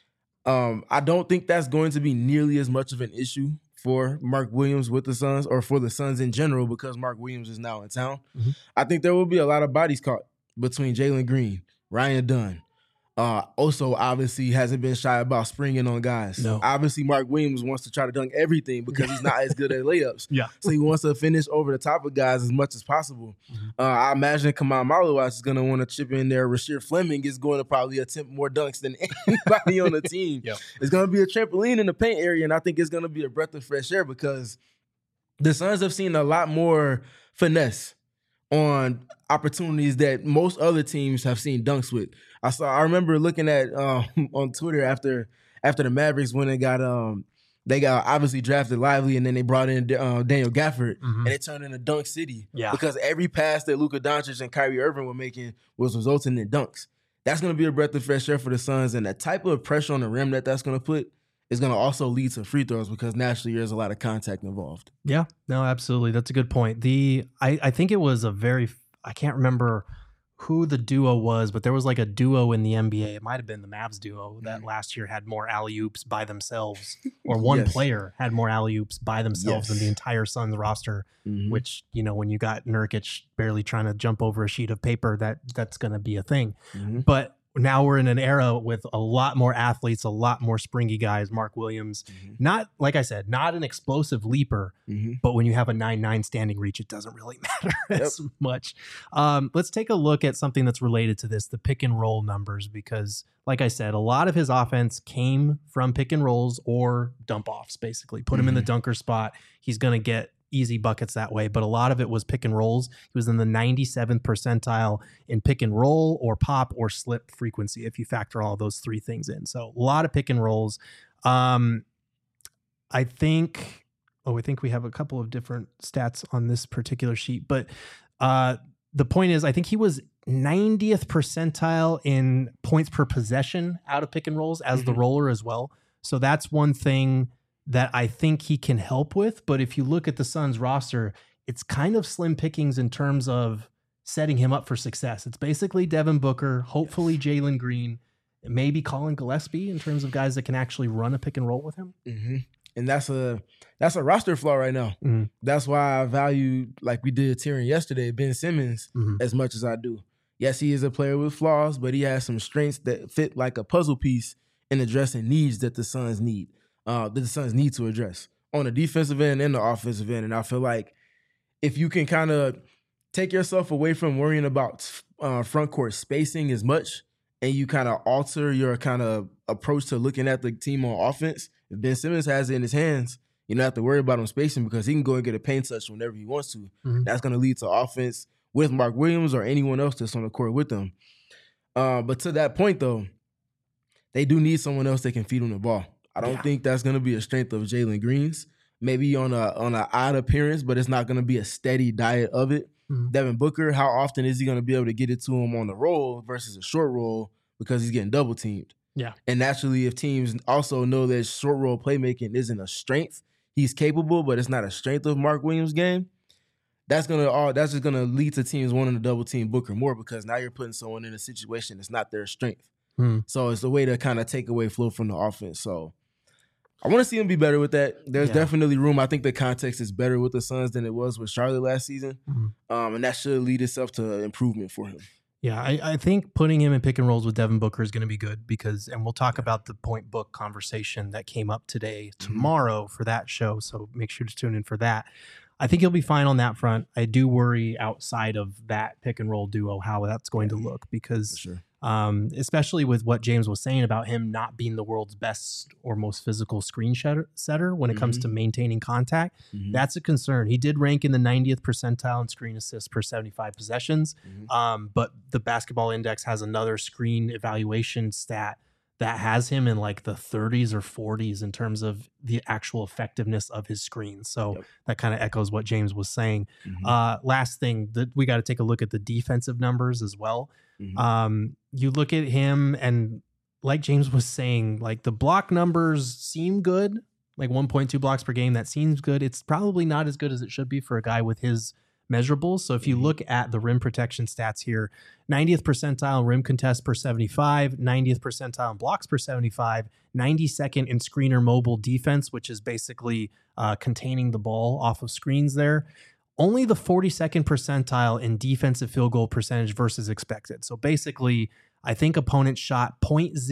I don't think that's going to be nearly as much of an issue for Mark Williams with the Suns, or for the Suns in general, because Mark Williams is now in town. I think there will be a lot of bodies caught between Jalen Green, Ryan Dunn. Also, obviously, hasn't been shy about springing on guys. No. Obviously, Mark Williams wants to try to dunk everything because he's not as good at layups. So he wants to finish over the top of guys as much as possible. I imagine Kamal Malawaz is going to want to chip in there. Rasheer Fleming is going to probably attempt more dunks than anybody on the team. It's going to be a trampoline in the paint area, and I think it's going to be a breath of fresh air because the Suns have seen a lot more finesse on opportunities that most other teams have seen dunks with. I remember looking at on Twitter after the Mavericks when they got obviously drafted Lively, and then they brought in Daniel Gafford, and it turned into Dunk City. Yeah. Because every pass that Luka Doncic and Kyrie Irving were making was resulting in dunks. That's going to be a breath of fresh air for the Suns, and the type of pressure on the rim that's going to put is going to also lead to free throws because naturally there's a lot of contact involved. Yeah, no, absolutely. That's a good point. I think it was I can't remember who the duo was, but there was like a duo in the NBA. It might have been the Mavs duo that last year had more alley-oops by themselves, or one player had more alley-oops by themselves than the entire Suns roster, which, when you got Nurkic barely trying to jump over a sheet of paper, that's going to be a thing. But now we're in an era with a lot more athletes, a lot more springy guys. Mark Williams, not, like I said, not an explosive leaper, but when you have a 9'9" standing reach, it doesn't really matter as much. Let's take a look at something that's related to this, the pick and roll numbers, because like I said, a lot of his offense came from pick and rolls or dump offs, basically. Put him in the dunker spot. He's going to get easy buckets that way, but a lot of it was pick and rolls. He was in the 97th percentile in pick and roll or pop or slip frequency if you factor all those three things in. So a lot of pick and rolls. I think we have a couple of different stats on this particular sheet, but the point is I think he was 90th percentile in points per possession out of pick and rolls as the roller as well. So that's one thing that I think he can help with. But if you look at the Suns roster, it's kind of slim pickings in terms of setting him up for success. It's basically Devin Booker, hopefully Jalen Green, maybe Colin Gillespie in terms of guys that can actually run a pick and roll with him. And that's a roster flaw right now. That's why I value, like we did Tyrion yesterday, Ben Simmons as much as I do. Yes, he is a player with flaws, but he has some strengths that fit like a puzzle piece in addressing needs that the Suns need. That the Suns need to address on the defensive end and the offensive end. And I feel like if you can kind of take yourself away from worrying about front court spacing as much, and you kind of alter your kind of approach to looking at the team on offense, if Ben Simmons has it in his hands, you don't have to worry about him spacing because he can go and get a paint touch whenever he wants to. That's going to lead to offense with Mark Williams or anyone else that's on the court with them. But to that point, though, they do need someone else that can feed him the ball. I don't think that's going to be a strength of Jalen Green's. Maybe on an odd appearance, but it's not going to be a steady diet of it. Devin Booker, how often is he going to be able to get it to him on the roll versus a short roll because he's getting double teamed? Yeah. And naturally, if teams also know that short roll playmaking isn't a strength, he's capable, but it's not a strength of Mark Williams' game. That's just gonna lead to teams wanting to double team Booker more because now you're putting someone in a situation that's not their strength. So it's a way to kind of take away flow from the offense. So I want to see him be better with that. There's definitely room. I think the context is better with the Suns than it was with Charlotte last season. And that should lead itself to improvement for him. Yeah, I think putting him in pick and rolls with Devin Booker is going to be good and we'll talk about the point book conversation that came up tomorrow for that show. So make sure to tune in for that. I think he'll be fine on that front. I do worry outside of that pick and roll duo how that's going to look because especially with what James was saying about him not being the world's best or most physical screen setter when it comes to maintaining contact. That's a concern. He did rank in the 90th percentile in screen assists per 75 possessions, but the Basketball Index has another screen evaluation stat that has him in like the 30s or 40s in terms of the actual effectiveness of his screens. So that kind of echoes what James was saying. Last thing, that we got to take a look at the defensive numbers as well. You look at him and like James was saying, like the block numbers seem good, like 1.2 blocks per game. That seems good. It's probably not as good as it should be for a guy with his measurables. So if you look at the rim protection stats here, 90th percentile rim contest per 75, 90th percentile in blocks per 75, 92nd in screener mobile defense, which is basically containing the ball off of screens there. Only the 42nd percentile in defensive field goal percentage versus expected. So basically, I think opponents shot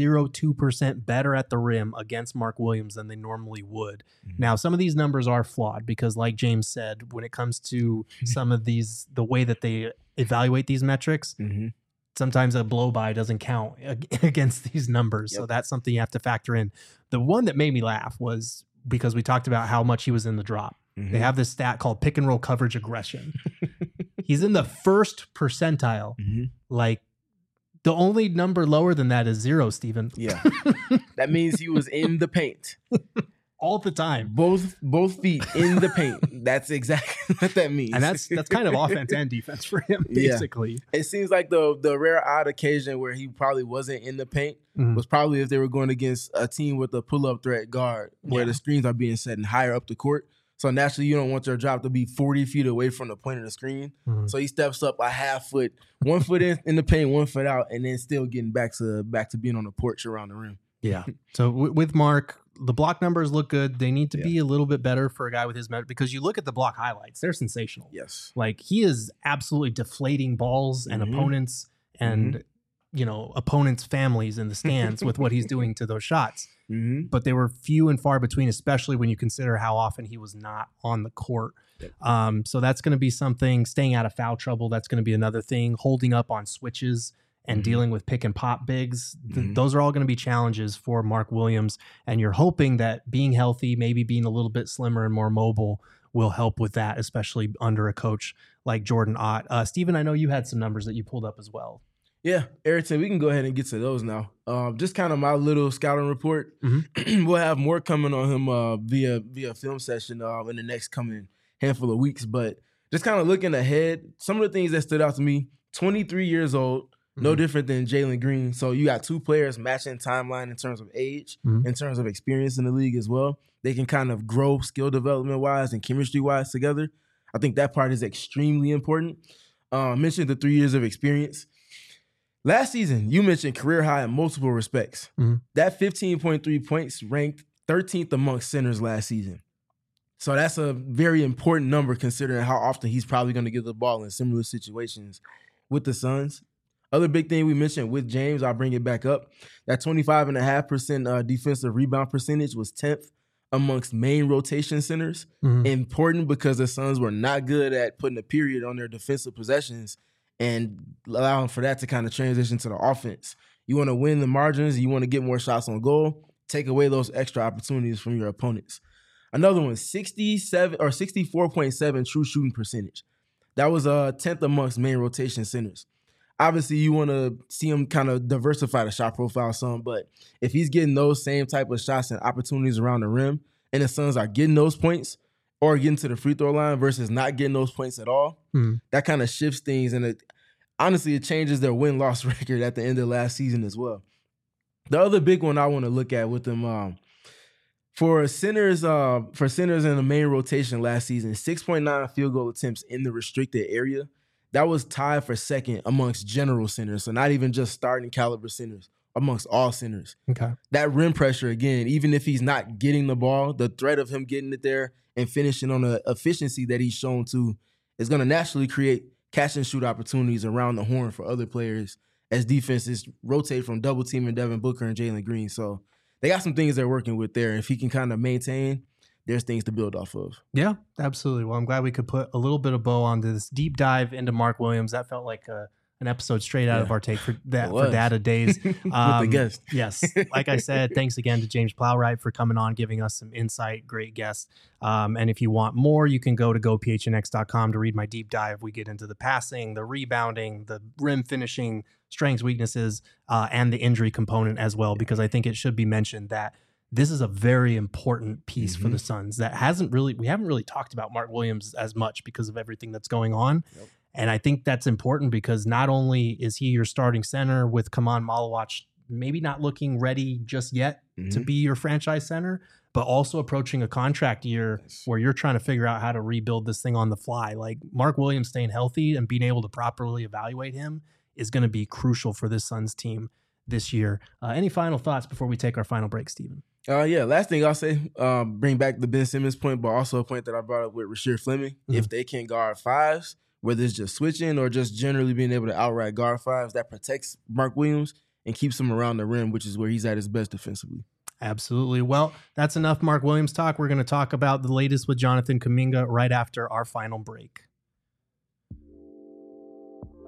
0.02% better at the rim against Mark Williams than they normally would. Now, some of these numbers are flawed because like James said, when it comes to some of these, the way that they evaluate these metrics, sometimes a blow by doesn't count against these numbers. So that's something you have to factor in. The one that made me laugh was because we talked about how much he was in the drop. They have this stat called pick and roll coverage aggression. He's in the first percentile. Like The only number lower than that is 0, Steven. Yeah. That means he was in the paint. All the time. Both feet in the paint. That's exactly what that means. And that's kind of offense and defense for him, basically. Yeah. It seems like the rare odd occasion where he probably wasn't in the paint was probably if they were going against a team with a pull-up threat guard where the screens are being set and higher up the court. So naturally, you don't want your drop to be 40 feet away from the point of the screen. So he steps up a half foot, 1 foot in the paint, 1 foot out, and then still getting back to being on the porch around the rim. Yeah. So with Mark, the block numbers look good. They need to be a little bit better for a guy with his measure, because you look at the block highlights, they're sensational. Yes. Like, he is absolutely deflating balls and opponents and, opponents' families in the stands with what he's doing to those shots. But they were few and far between, especially when you consider how often he was not on the court. So that's going to be something. Staying out of foul trouble, that's going to be another thing. Holding up on switches and dealing with pick and pop bigs. Those are all going to be challenges for Mark Williams. And you're hoping that being healthy, maybe being a little bit slimmer and more mobile, will help with that, especially under a coach like Jordan Ott. Steven, I know you had some numbers that you pulled up as well. Yeah, Ayrton, we can go ahead and get to those now. Just kind of my little scouting report. We'll have more coming on him via film session in the next coming handful of weeks. But just kind of looking ahead, some of the things that stood out to me: 23 years old, no different than Jalen Green. So you got two players matching timeline in terms of age, in terms of experience in the league as well. They can kind of grow skill development-wise and chemistry-wise together. I think that part is extremely important. I mentioned the 3 years of experience. Last season, you mentioned career high in multiple respects. That 15.3 points ranked 13th amongst centers last season. So that's a very important number considering how often he's probably going to get the ball in similar situations with the Suns. Other big thing we mentioned with James, I'll bring it back up. That 25.5% defensive rebound percentage was 10th amongst main rotation centers. Important because the Suns were not good at putting a period on their defensive possessions and allowing for that to kind of transition to the offense. You want to win the margins. You want to get more shots on goal. Take away those extra opportunities from your opponents. Another one, 64.7 true shooting percentage. That was 10th amongst main rotation centers. Obviously, you want to see him kind of diversify the shot profile some, but if he's getting those same type of shots and opportunities around the rim, and the Suns are getting those points or getting to the free throw line versus not getting those points at all, that kind of shifts things, and honestly, it changes their win-loss record at the end of last season as well. The other big one I want to look at with them, for centers in the main rotation last season, 6.9 field goal attempts in the restricted area. That was tied for second amongst general centers, so not even just starting caliber centers, amongst all centers. Okay. That rim pressure, again, even if he's not getting the ball, the threat of him getting it there and finishing on the efficiency that he's shown to is going to naturally create catch and shoot opportunities around the horn for other players as defenses rotate from double teaming Devin Booker and Jalen Green. So they got some things they're working with there. If he can kind of maintain, there's things to build off of. Yeah, absolutely. Well, I'm glad we could put a little bit of bow on this deep dive into Mark Williams. That felt like an episode straight out of our Take for Data days. With the guest. Yes. Like I said, thanks again to James Plowright for coming on, giving us some insight. Great guest. And if you want more, you can go to gophnx.com to read my deep dive. We get into the passing, the rebounding, the rim finishing, strengths, weaknesses, and the injury component as well, because I think it should be mentioned that this is a very important piece for the Suns that we haven't really talked about Mark Williams as much because of everything that's going on. Yep. And I think that's important because not only is he your starting center with Kaman Malawach maybe not looking ready just yet to be your franchise center, but also approaching a contract year where you're trying to figure out how to rebuild this thing on the fly. Like, Mark Williams staying healthy and being able to properly evaluate him is going to be crucial for this Suns team this year. Any final thoughts before we take our final break, Steven? Last thing I'll say, bring back the Ben Simmons point, but also a point that I brought up with Rasheed Fleming. If they can guard fives, whether it's just switching or just generally being able to outright guard fives, that protects Mark Williams and keeps him around the rim, which is where he's at his best defensively. Absolutely. Well, that's enough Mark Williams talk. We're going to talk about the latest with Jonathan Kuminga right after our final break.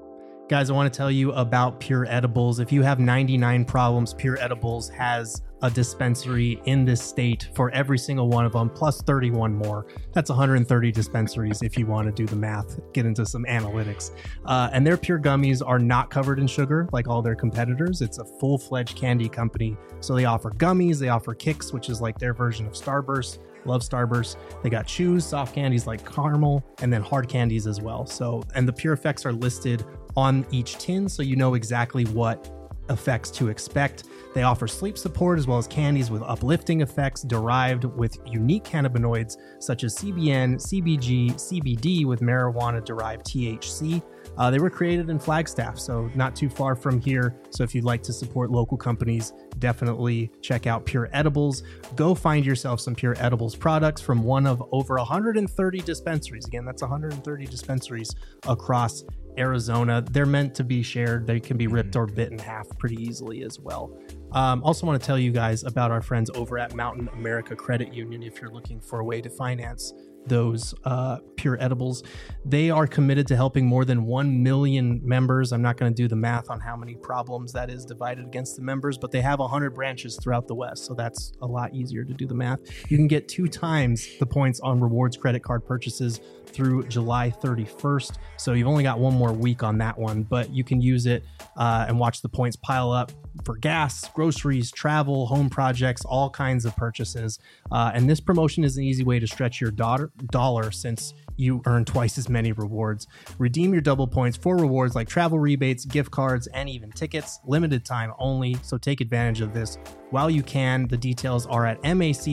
Guys, I want to tell you about Pure Edibles. If you have 99 problems, Pure Edibles has a dispensary in this state for every single one of them, plus 31 more. That's 130 dispensaries if you want to do the math, get into some analytics. And their Pure gummies are not covered in sugar like all their competitors. It's a full-fledged candy company. So they offer gummies, they offer Kicks, which is like their version of Starburst. Love Starburst. They got chews, soft candies like caramel, and then hard candies as well. So, and the Pure effects are listed on each tin, so you know exactly what effects to expect. They offer sleep support as well as candies with uplifting effects derived with unique cannabinoids such as CBN, CBG, CBD with marijuana-derived THC. They were created in Flagstaff, so not too far from here. So if you'd like to support local companies, definitely check out Pure Edibles. Go find yourself some Pure Edibles products from one of over 130 dispensaries. Again, that's 130 dispensaries across Arizona. They're meant to be shared. They can be ripped or bit in half pretty easily as well. Also want to tell you guys about our friends over at Mountain America Credit Union if you're looking for a way to finance those Pure Edibles. They are committed to helping more than 1 million members. I'm not going to do the math on how many problems that is divided against the members, but they have 100 branches throughout the West, so that's a lot easier to do the math. You can get 2 times the points on rewards credit card purchases through July 31st, so you've only got one more week on that one, but you can use it and watch the points pile up for gas, groceries, travel, home projects, all kinds of purchases. And this promotion is an easy way to stretch your dollar since you earn twice as many rewards. Redeem your double points for rewards like travel rebates, gift cards, and even tickets. Limited time only, so take advantage of this while you can. The details are at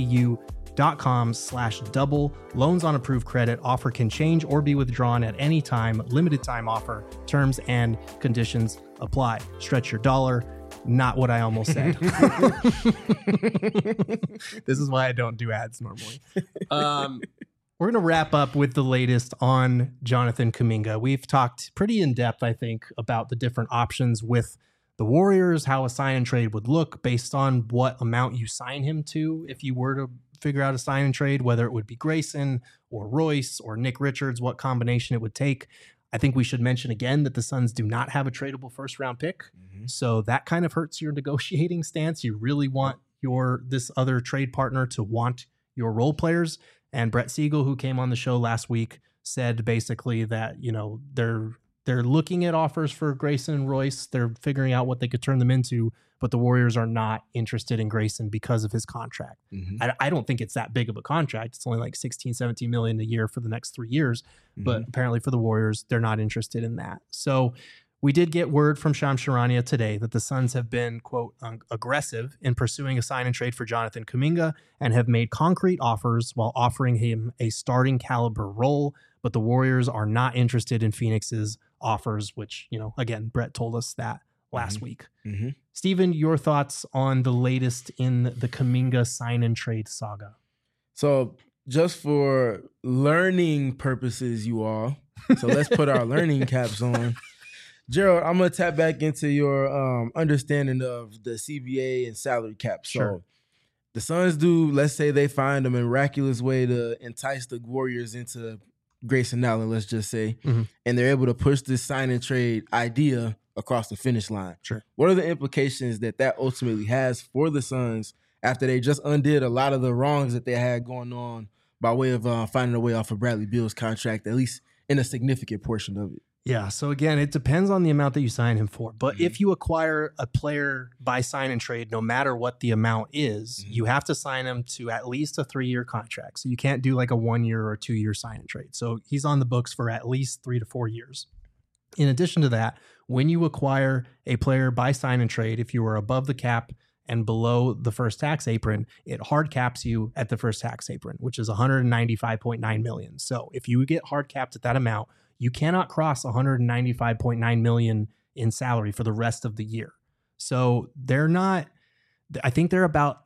macu.com/double. Loans on approved credit. Offer can change or be withdrawn at any time. Limited time offer. Terms and conditions apply. Stretch your dollar. Not what I almost said. This is why I don't do ads normally. We're going to wrap up with the latest on Jonathan Kuminga. We've talked pretty in depth, I think, about the different options with the Warriors, how a sign and trade would look based on what amount you sign him to. If you were to figure out a sign and trade, whether it would be Grayson or Royce or Nick Richards, what combination it would take. I think we should mention again that the Suns do not have a tradable first round pick. So that kind of hurts your negotiating stance. You really want this other trade partner to want your role players. And Brett Siegel, who came on the show last week, said basically that, you know, they're looking at offers for Grayson and Royce. They're figuring out what they could turn them into, but the Warriors are not interested in Grayson because of his contract. I don't think it's that big of a contract. It's only like 16, 17 million a year for the next 3 years. But apparently for the Warriors, they're not interested in that. So we did get word from Shams Charania today that the Suns have been, quote, aggressive in pursuing a sign and trade for Jonathan Kuminga and have made concrete offers while offering him a starting caliber role. But the Warriors are not interested in Phoenix's offers, which, you know, again, Brett told us that last week. Steven, your thoughts on the latest in the Kuminga sign and trade saga? So just for learning purposes, you all, so let's put our learning caps on. Gerald, I'm going to tap back into your understanding of the CBA and salary cap. So the Suns do, let's say they find a miraculous way to entice the Warriors into Grayson Allen, let's just say, and they're able to push this sign and trade idea across the finish line. What are the implications that ultimately has for the Suns after they just undid a lot of the wrongs that they had going on by way of finding a way off of Bradley Beal's contract, at least in a significant portion of it? Yeah, so again, it depends on the amount that you sign him for. But if you acquire a player by sign and trade, no matter what the amount is, you have to sign him to at least a 3-year contract. So you can't do like a 1-year or 2-year sign and trade. So he's on the books for at least 3 to 4 years. In addition to that, when you acquire a player by sign and trade, if you are above the cap and below the first tax apron, it hard caps you at the first tax apron, which is $195.9 million. So if you get hard capped at that amount, you cannot cross $195.9 million in salary for the rest of the year. So they're not, I think they're about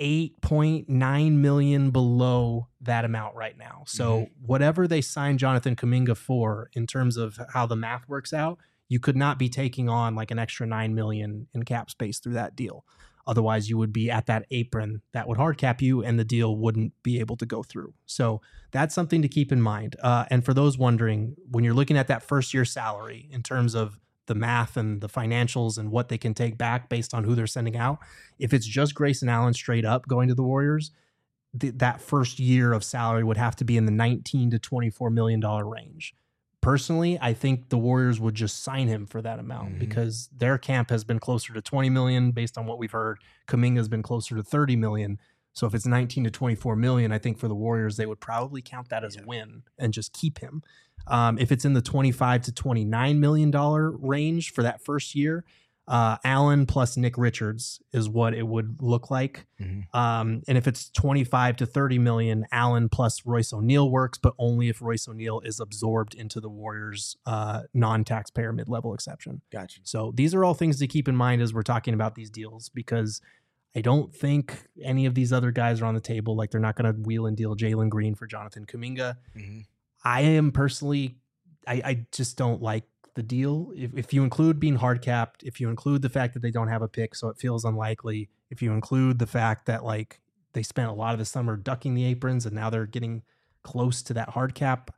$8.9 million below that amount right now. So whatever they signed Jonathan Kuminga for in terms of how the math works out, you could not be taking on like an extra $9 million in cap space through that deal. Otherwise, you would be at that apron that would hard cap you and the deal wouldn't be able to go through. So that's something to keep in mind. And for those wondering, when you're looking at that first year salary in terms of the math and the financials and what they can take back based on who they're sending out. If it's just Grayson Allen straight up going to the Warriors, that first year of salary would have to be in the $19 to $24 million range. Personally, I think the Warriors would just sign him for that amount because their camp has been closer to 20 million based on what we've heard. Kuminga's been closer to 30 million. So if it's 19 to 24 million, I think for the Warriors, they would probably count that as a win and just keep him. If it's in the 25 to $29 million range for that first year, Allen plus Nick Richards is what it would look like. And if it's 25 to 30 million, Allen plus Royce O'Neal works, but only if Royce O'Neal is absorbed into the Warriors' non-taxpayer mid-level exception. Gotcha. So these are all things to keep in mind as we're talking about these deals, because I don't think any of these other guys are on the table. Like, they're not going to wheel and deal Jalen Green for Jonathan Kuminga. I am personally, I just don't like the deal. If you include being hard capped, if you include the fact that they don't have a pick, so it feels unlikely, if you include the fact that like they spent a lot of the summer ducking the aprons and now they're getting close to that hard cap,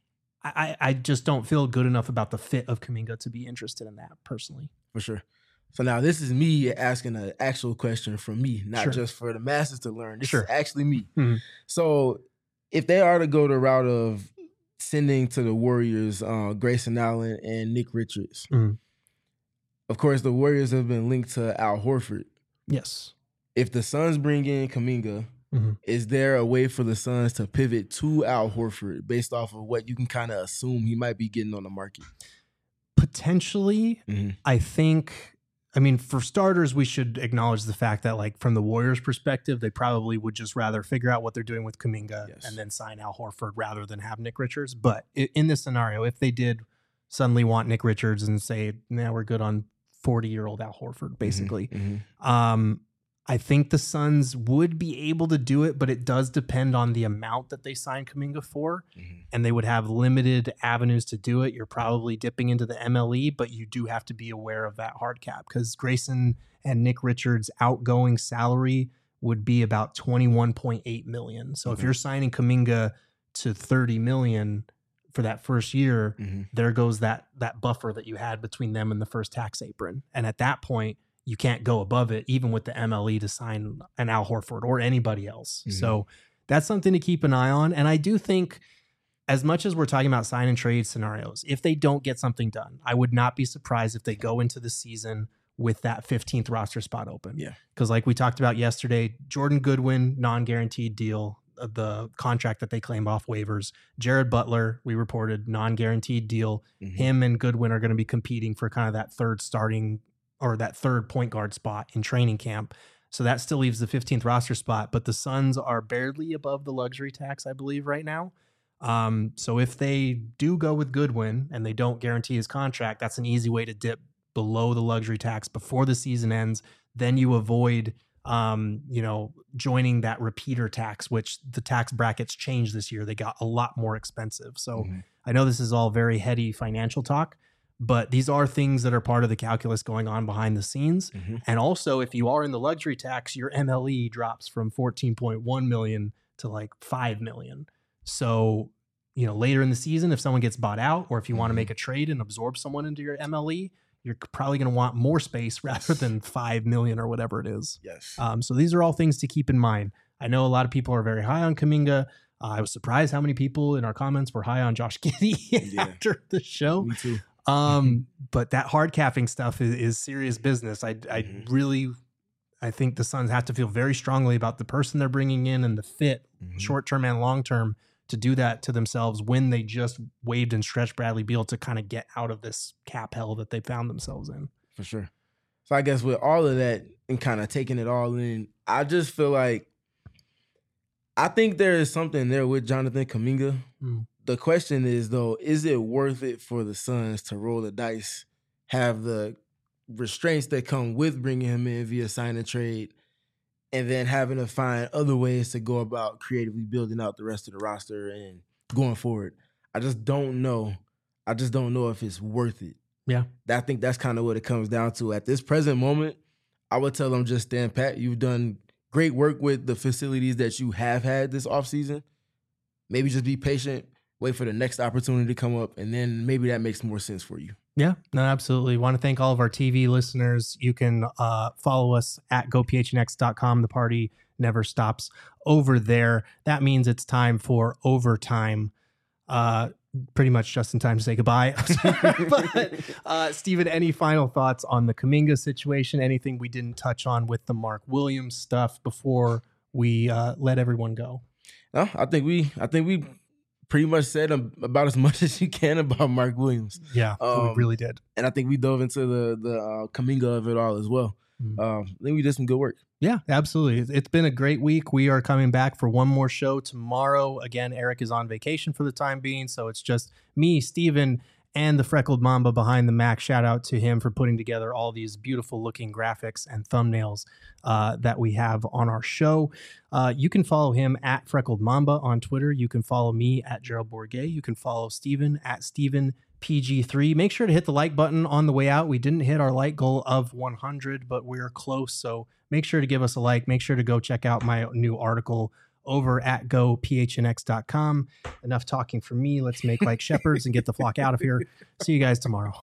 I just don't feel good enough about the fit of Kuminga to be interested in that personally. For sure. So now this is me asking an actual question from me, not just for the masses to learn. This is actually me. So if they are to go the route of sending to the Warriors Grayson Allen and Nick Richards, of course, the Warriors have been linked to Al Horford. Yes. If the Suns bring in Kuminga, is there a way for the Suns to pivot to Al Horford based off of what you can kind of assume he might be getting on the market? Potentially. I think, I mean, for starters, we should acknowledge the fact that, like, from the Warriors' perspective, they probably would just rather figure out what they're doing with Kuminga and then sign Al Horford rather than have Nick Richards. But in this scenario, if they did suddenly want Nick Richards and say, nah, we're good on 40-year-old Al Horford, basically, I think the Suns would be able to do it, but it does depend on the amount that they sign Kuminga for, and they would have limited avenues to do it. You're probably dipping into the MLE, but you do have to be aware of that hard cap because Grayson and Nick Richards' outgoing salary would be about $21.8 million. So if you're signing Kuminga to $30 million for that first year, there goes that buffer that you had between them and the first tax apron. And at that point, you can't go above it, even with the MLE, to sign an Al Horford or anybody else. So that's something to keep an eye on. And I do think, as much as we're talking about sign and trade scenarios, if they don't get something done, I would not be surprised if they go into the season with that 15th roster spot open. Because like we talked about yesterday, Jordan Goodwin, non-guaranteed deal, the contract that they claim off waivers. Jared Butler, we reported, non-guaranteed deal. Him and Goodwin are going to be competing for kind of that third starting or that third point guard spot in training camp. So that still leaves the 15th roster spot, but the Suns are barely above the luxury tax, I believe, right now. So if they do go with Goodwin and they don't guarantee his contract, that's an easy way to dip below the luxury tax before the season ends. Then you avoid, joining that repeater tax, which the tax brackets changed this year. They got a lot more expensive. So I know this is all very heady financial talk, but these are things that are part of the calculus going on behind the scenes. And also, if you are in the luxury tax, your MLE drops from 14.1 million to like 5 million. So, later in the season, if someone gets bought out, or if you want to make a trade and absorb someone into your MLE, you're probably going to want more space rather than 5 million or whatever it is. So these are all things to keep in mind. I know a lot of people are very high on Kuminga. I was surprised how many people in our comments were high on Josh Giddey after the show. Me too. But that hard capping stuff is serious business. I think the Suns have to feel very strongly about the person they're bringing in and the fit, short-term and long-term, to do that to themselves when they just waived and stretched Bradley Beal to kind of get out of this cap hell that they found themselves in. For sure. So I guess with all of that and kind of taking it all in, I just feel like I think there is something there with Jonathan Kuminga. The question is, though, is it worth it for the Suns to roll the dice, have the restraints that come with bringing him in via sign and trade, and then having to find other ways to go about creatively building out the rest of the roster and going forward? I just don't know. I just don't know if it's worth it. I think that's kind of what it comes down to. At this present moment, I would tell them just stand pat. You've done great work with the facilities that you have had this offseason. Maybe just be patient, wait for the next opportunity to come up, and then maybe that makes more sense for you. Yeah, no, absolutely. Want to thank all of our TV listeners. You can follow us at gophnx.com. The party never stops over there. That means it's time for overtime. Pretty much just in time to say goodbye. But Steven, any final thoughts on the Kuminga situation? Anything we didn't touch on with the Mark Williams stuff before we let everyone go? No, I think we pretty much said about as much as you can about Mark Williams. Yeah, we really did. And I think we dove into the Kuminga of it all as well. I think we did some good work. Yeah, absolutely. It's been a great week. We are coming back for one more show tomorrow. Again, Eric is on vacation for the time being, so it's just me, Steven, and the Freckled Mamba behind the Mac. Shout out to him for putting together all these beautiful looking graphics and thumbnails that we have on our show. You can follow him at Freckled Mamba on Twitter. You can follow me at Gerald Bourget. You can follow Steven at Steven PG3. Make sure to hit the like button on the way out. We didn't hit our like goal of 100, but we're close. So make sure to give us a like. Make sure to go check out my new article over at gophnx.com. Enough talking from me. Let's make like shepherds and get the flock out of here. See you guys tomorrow.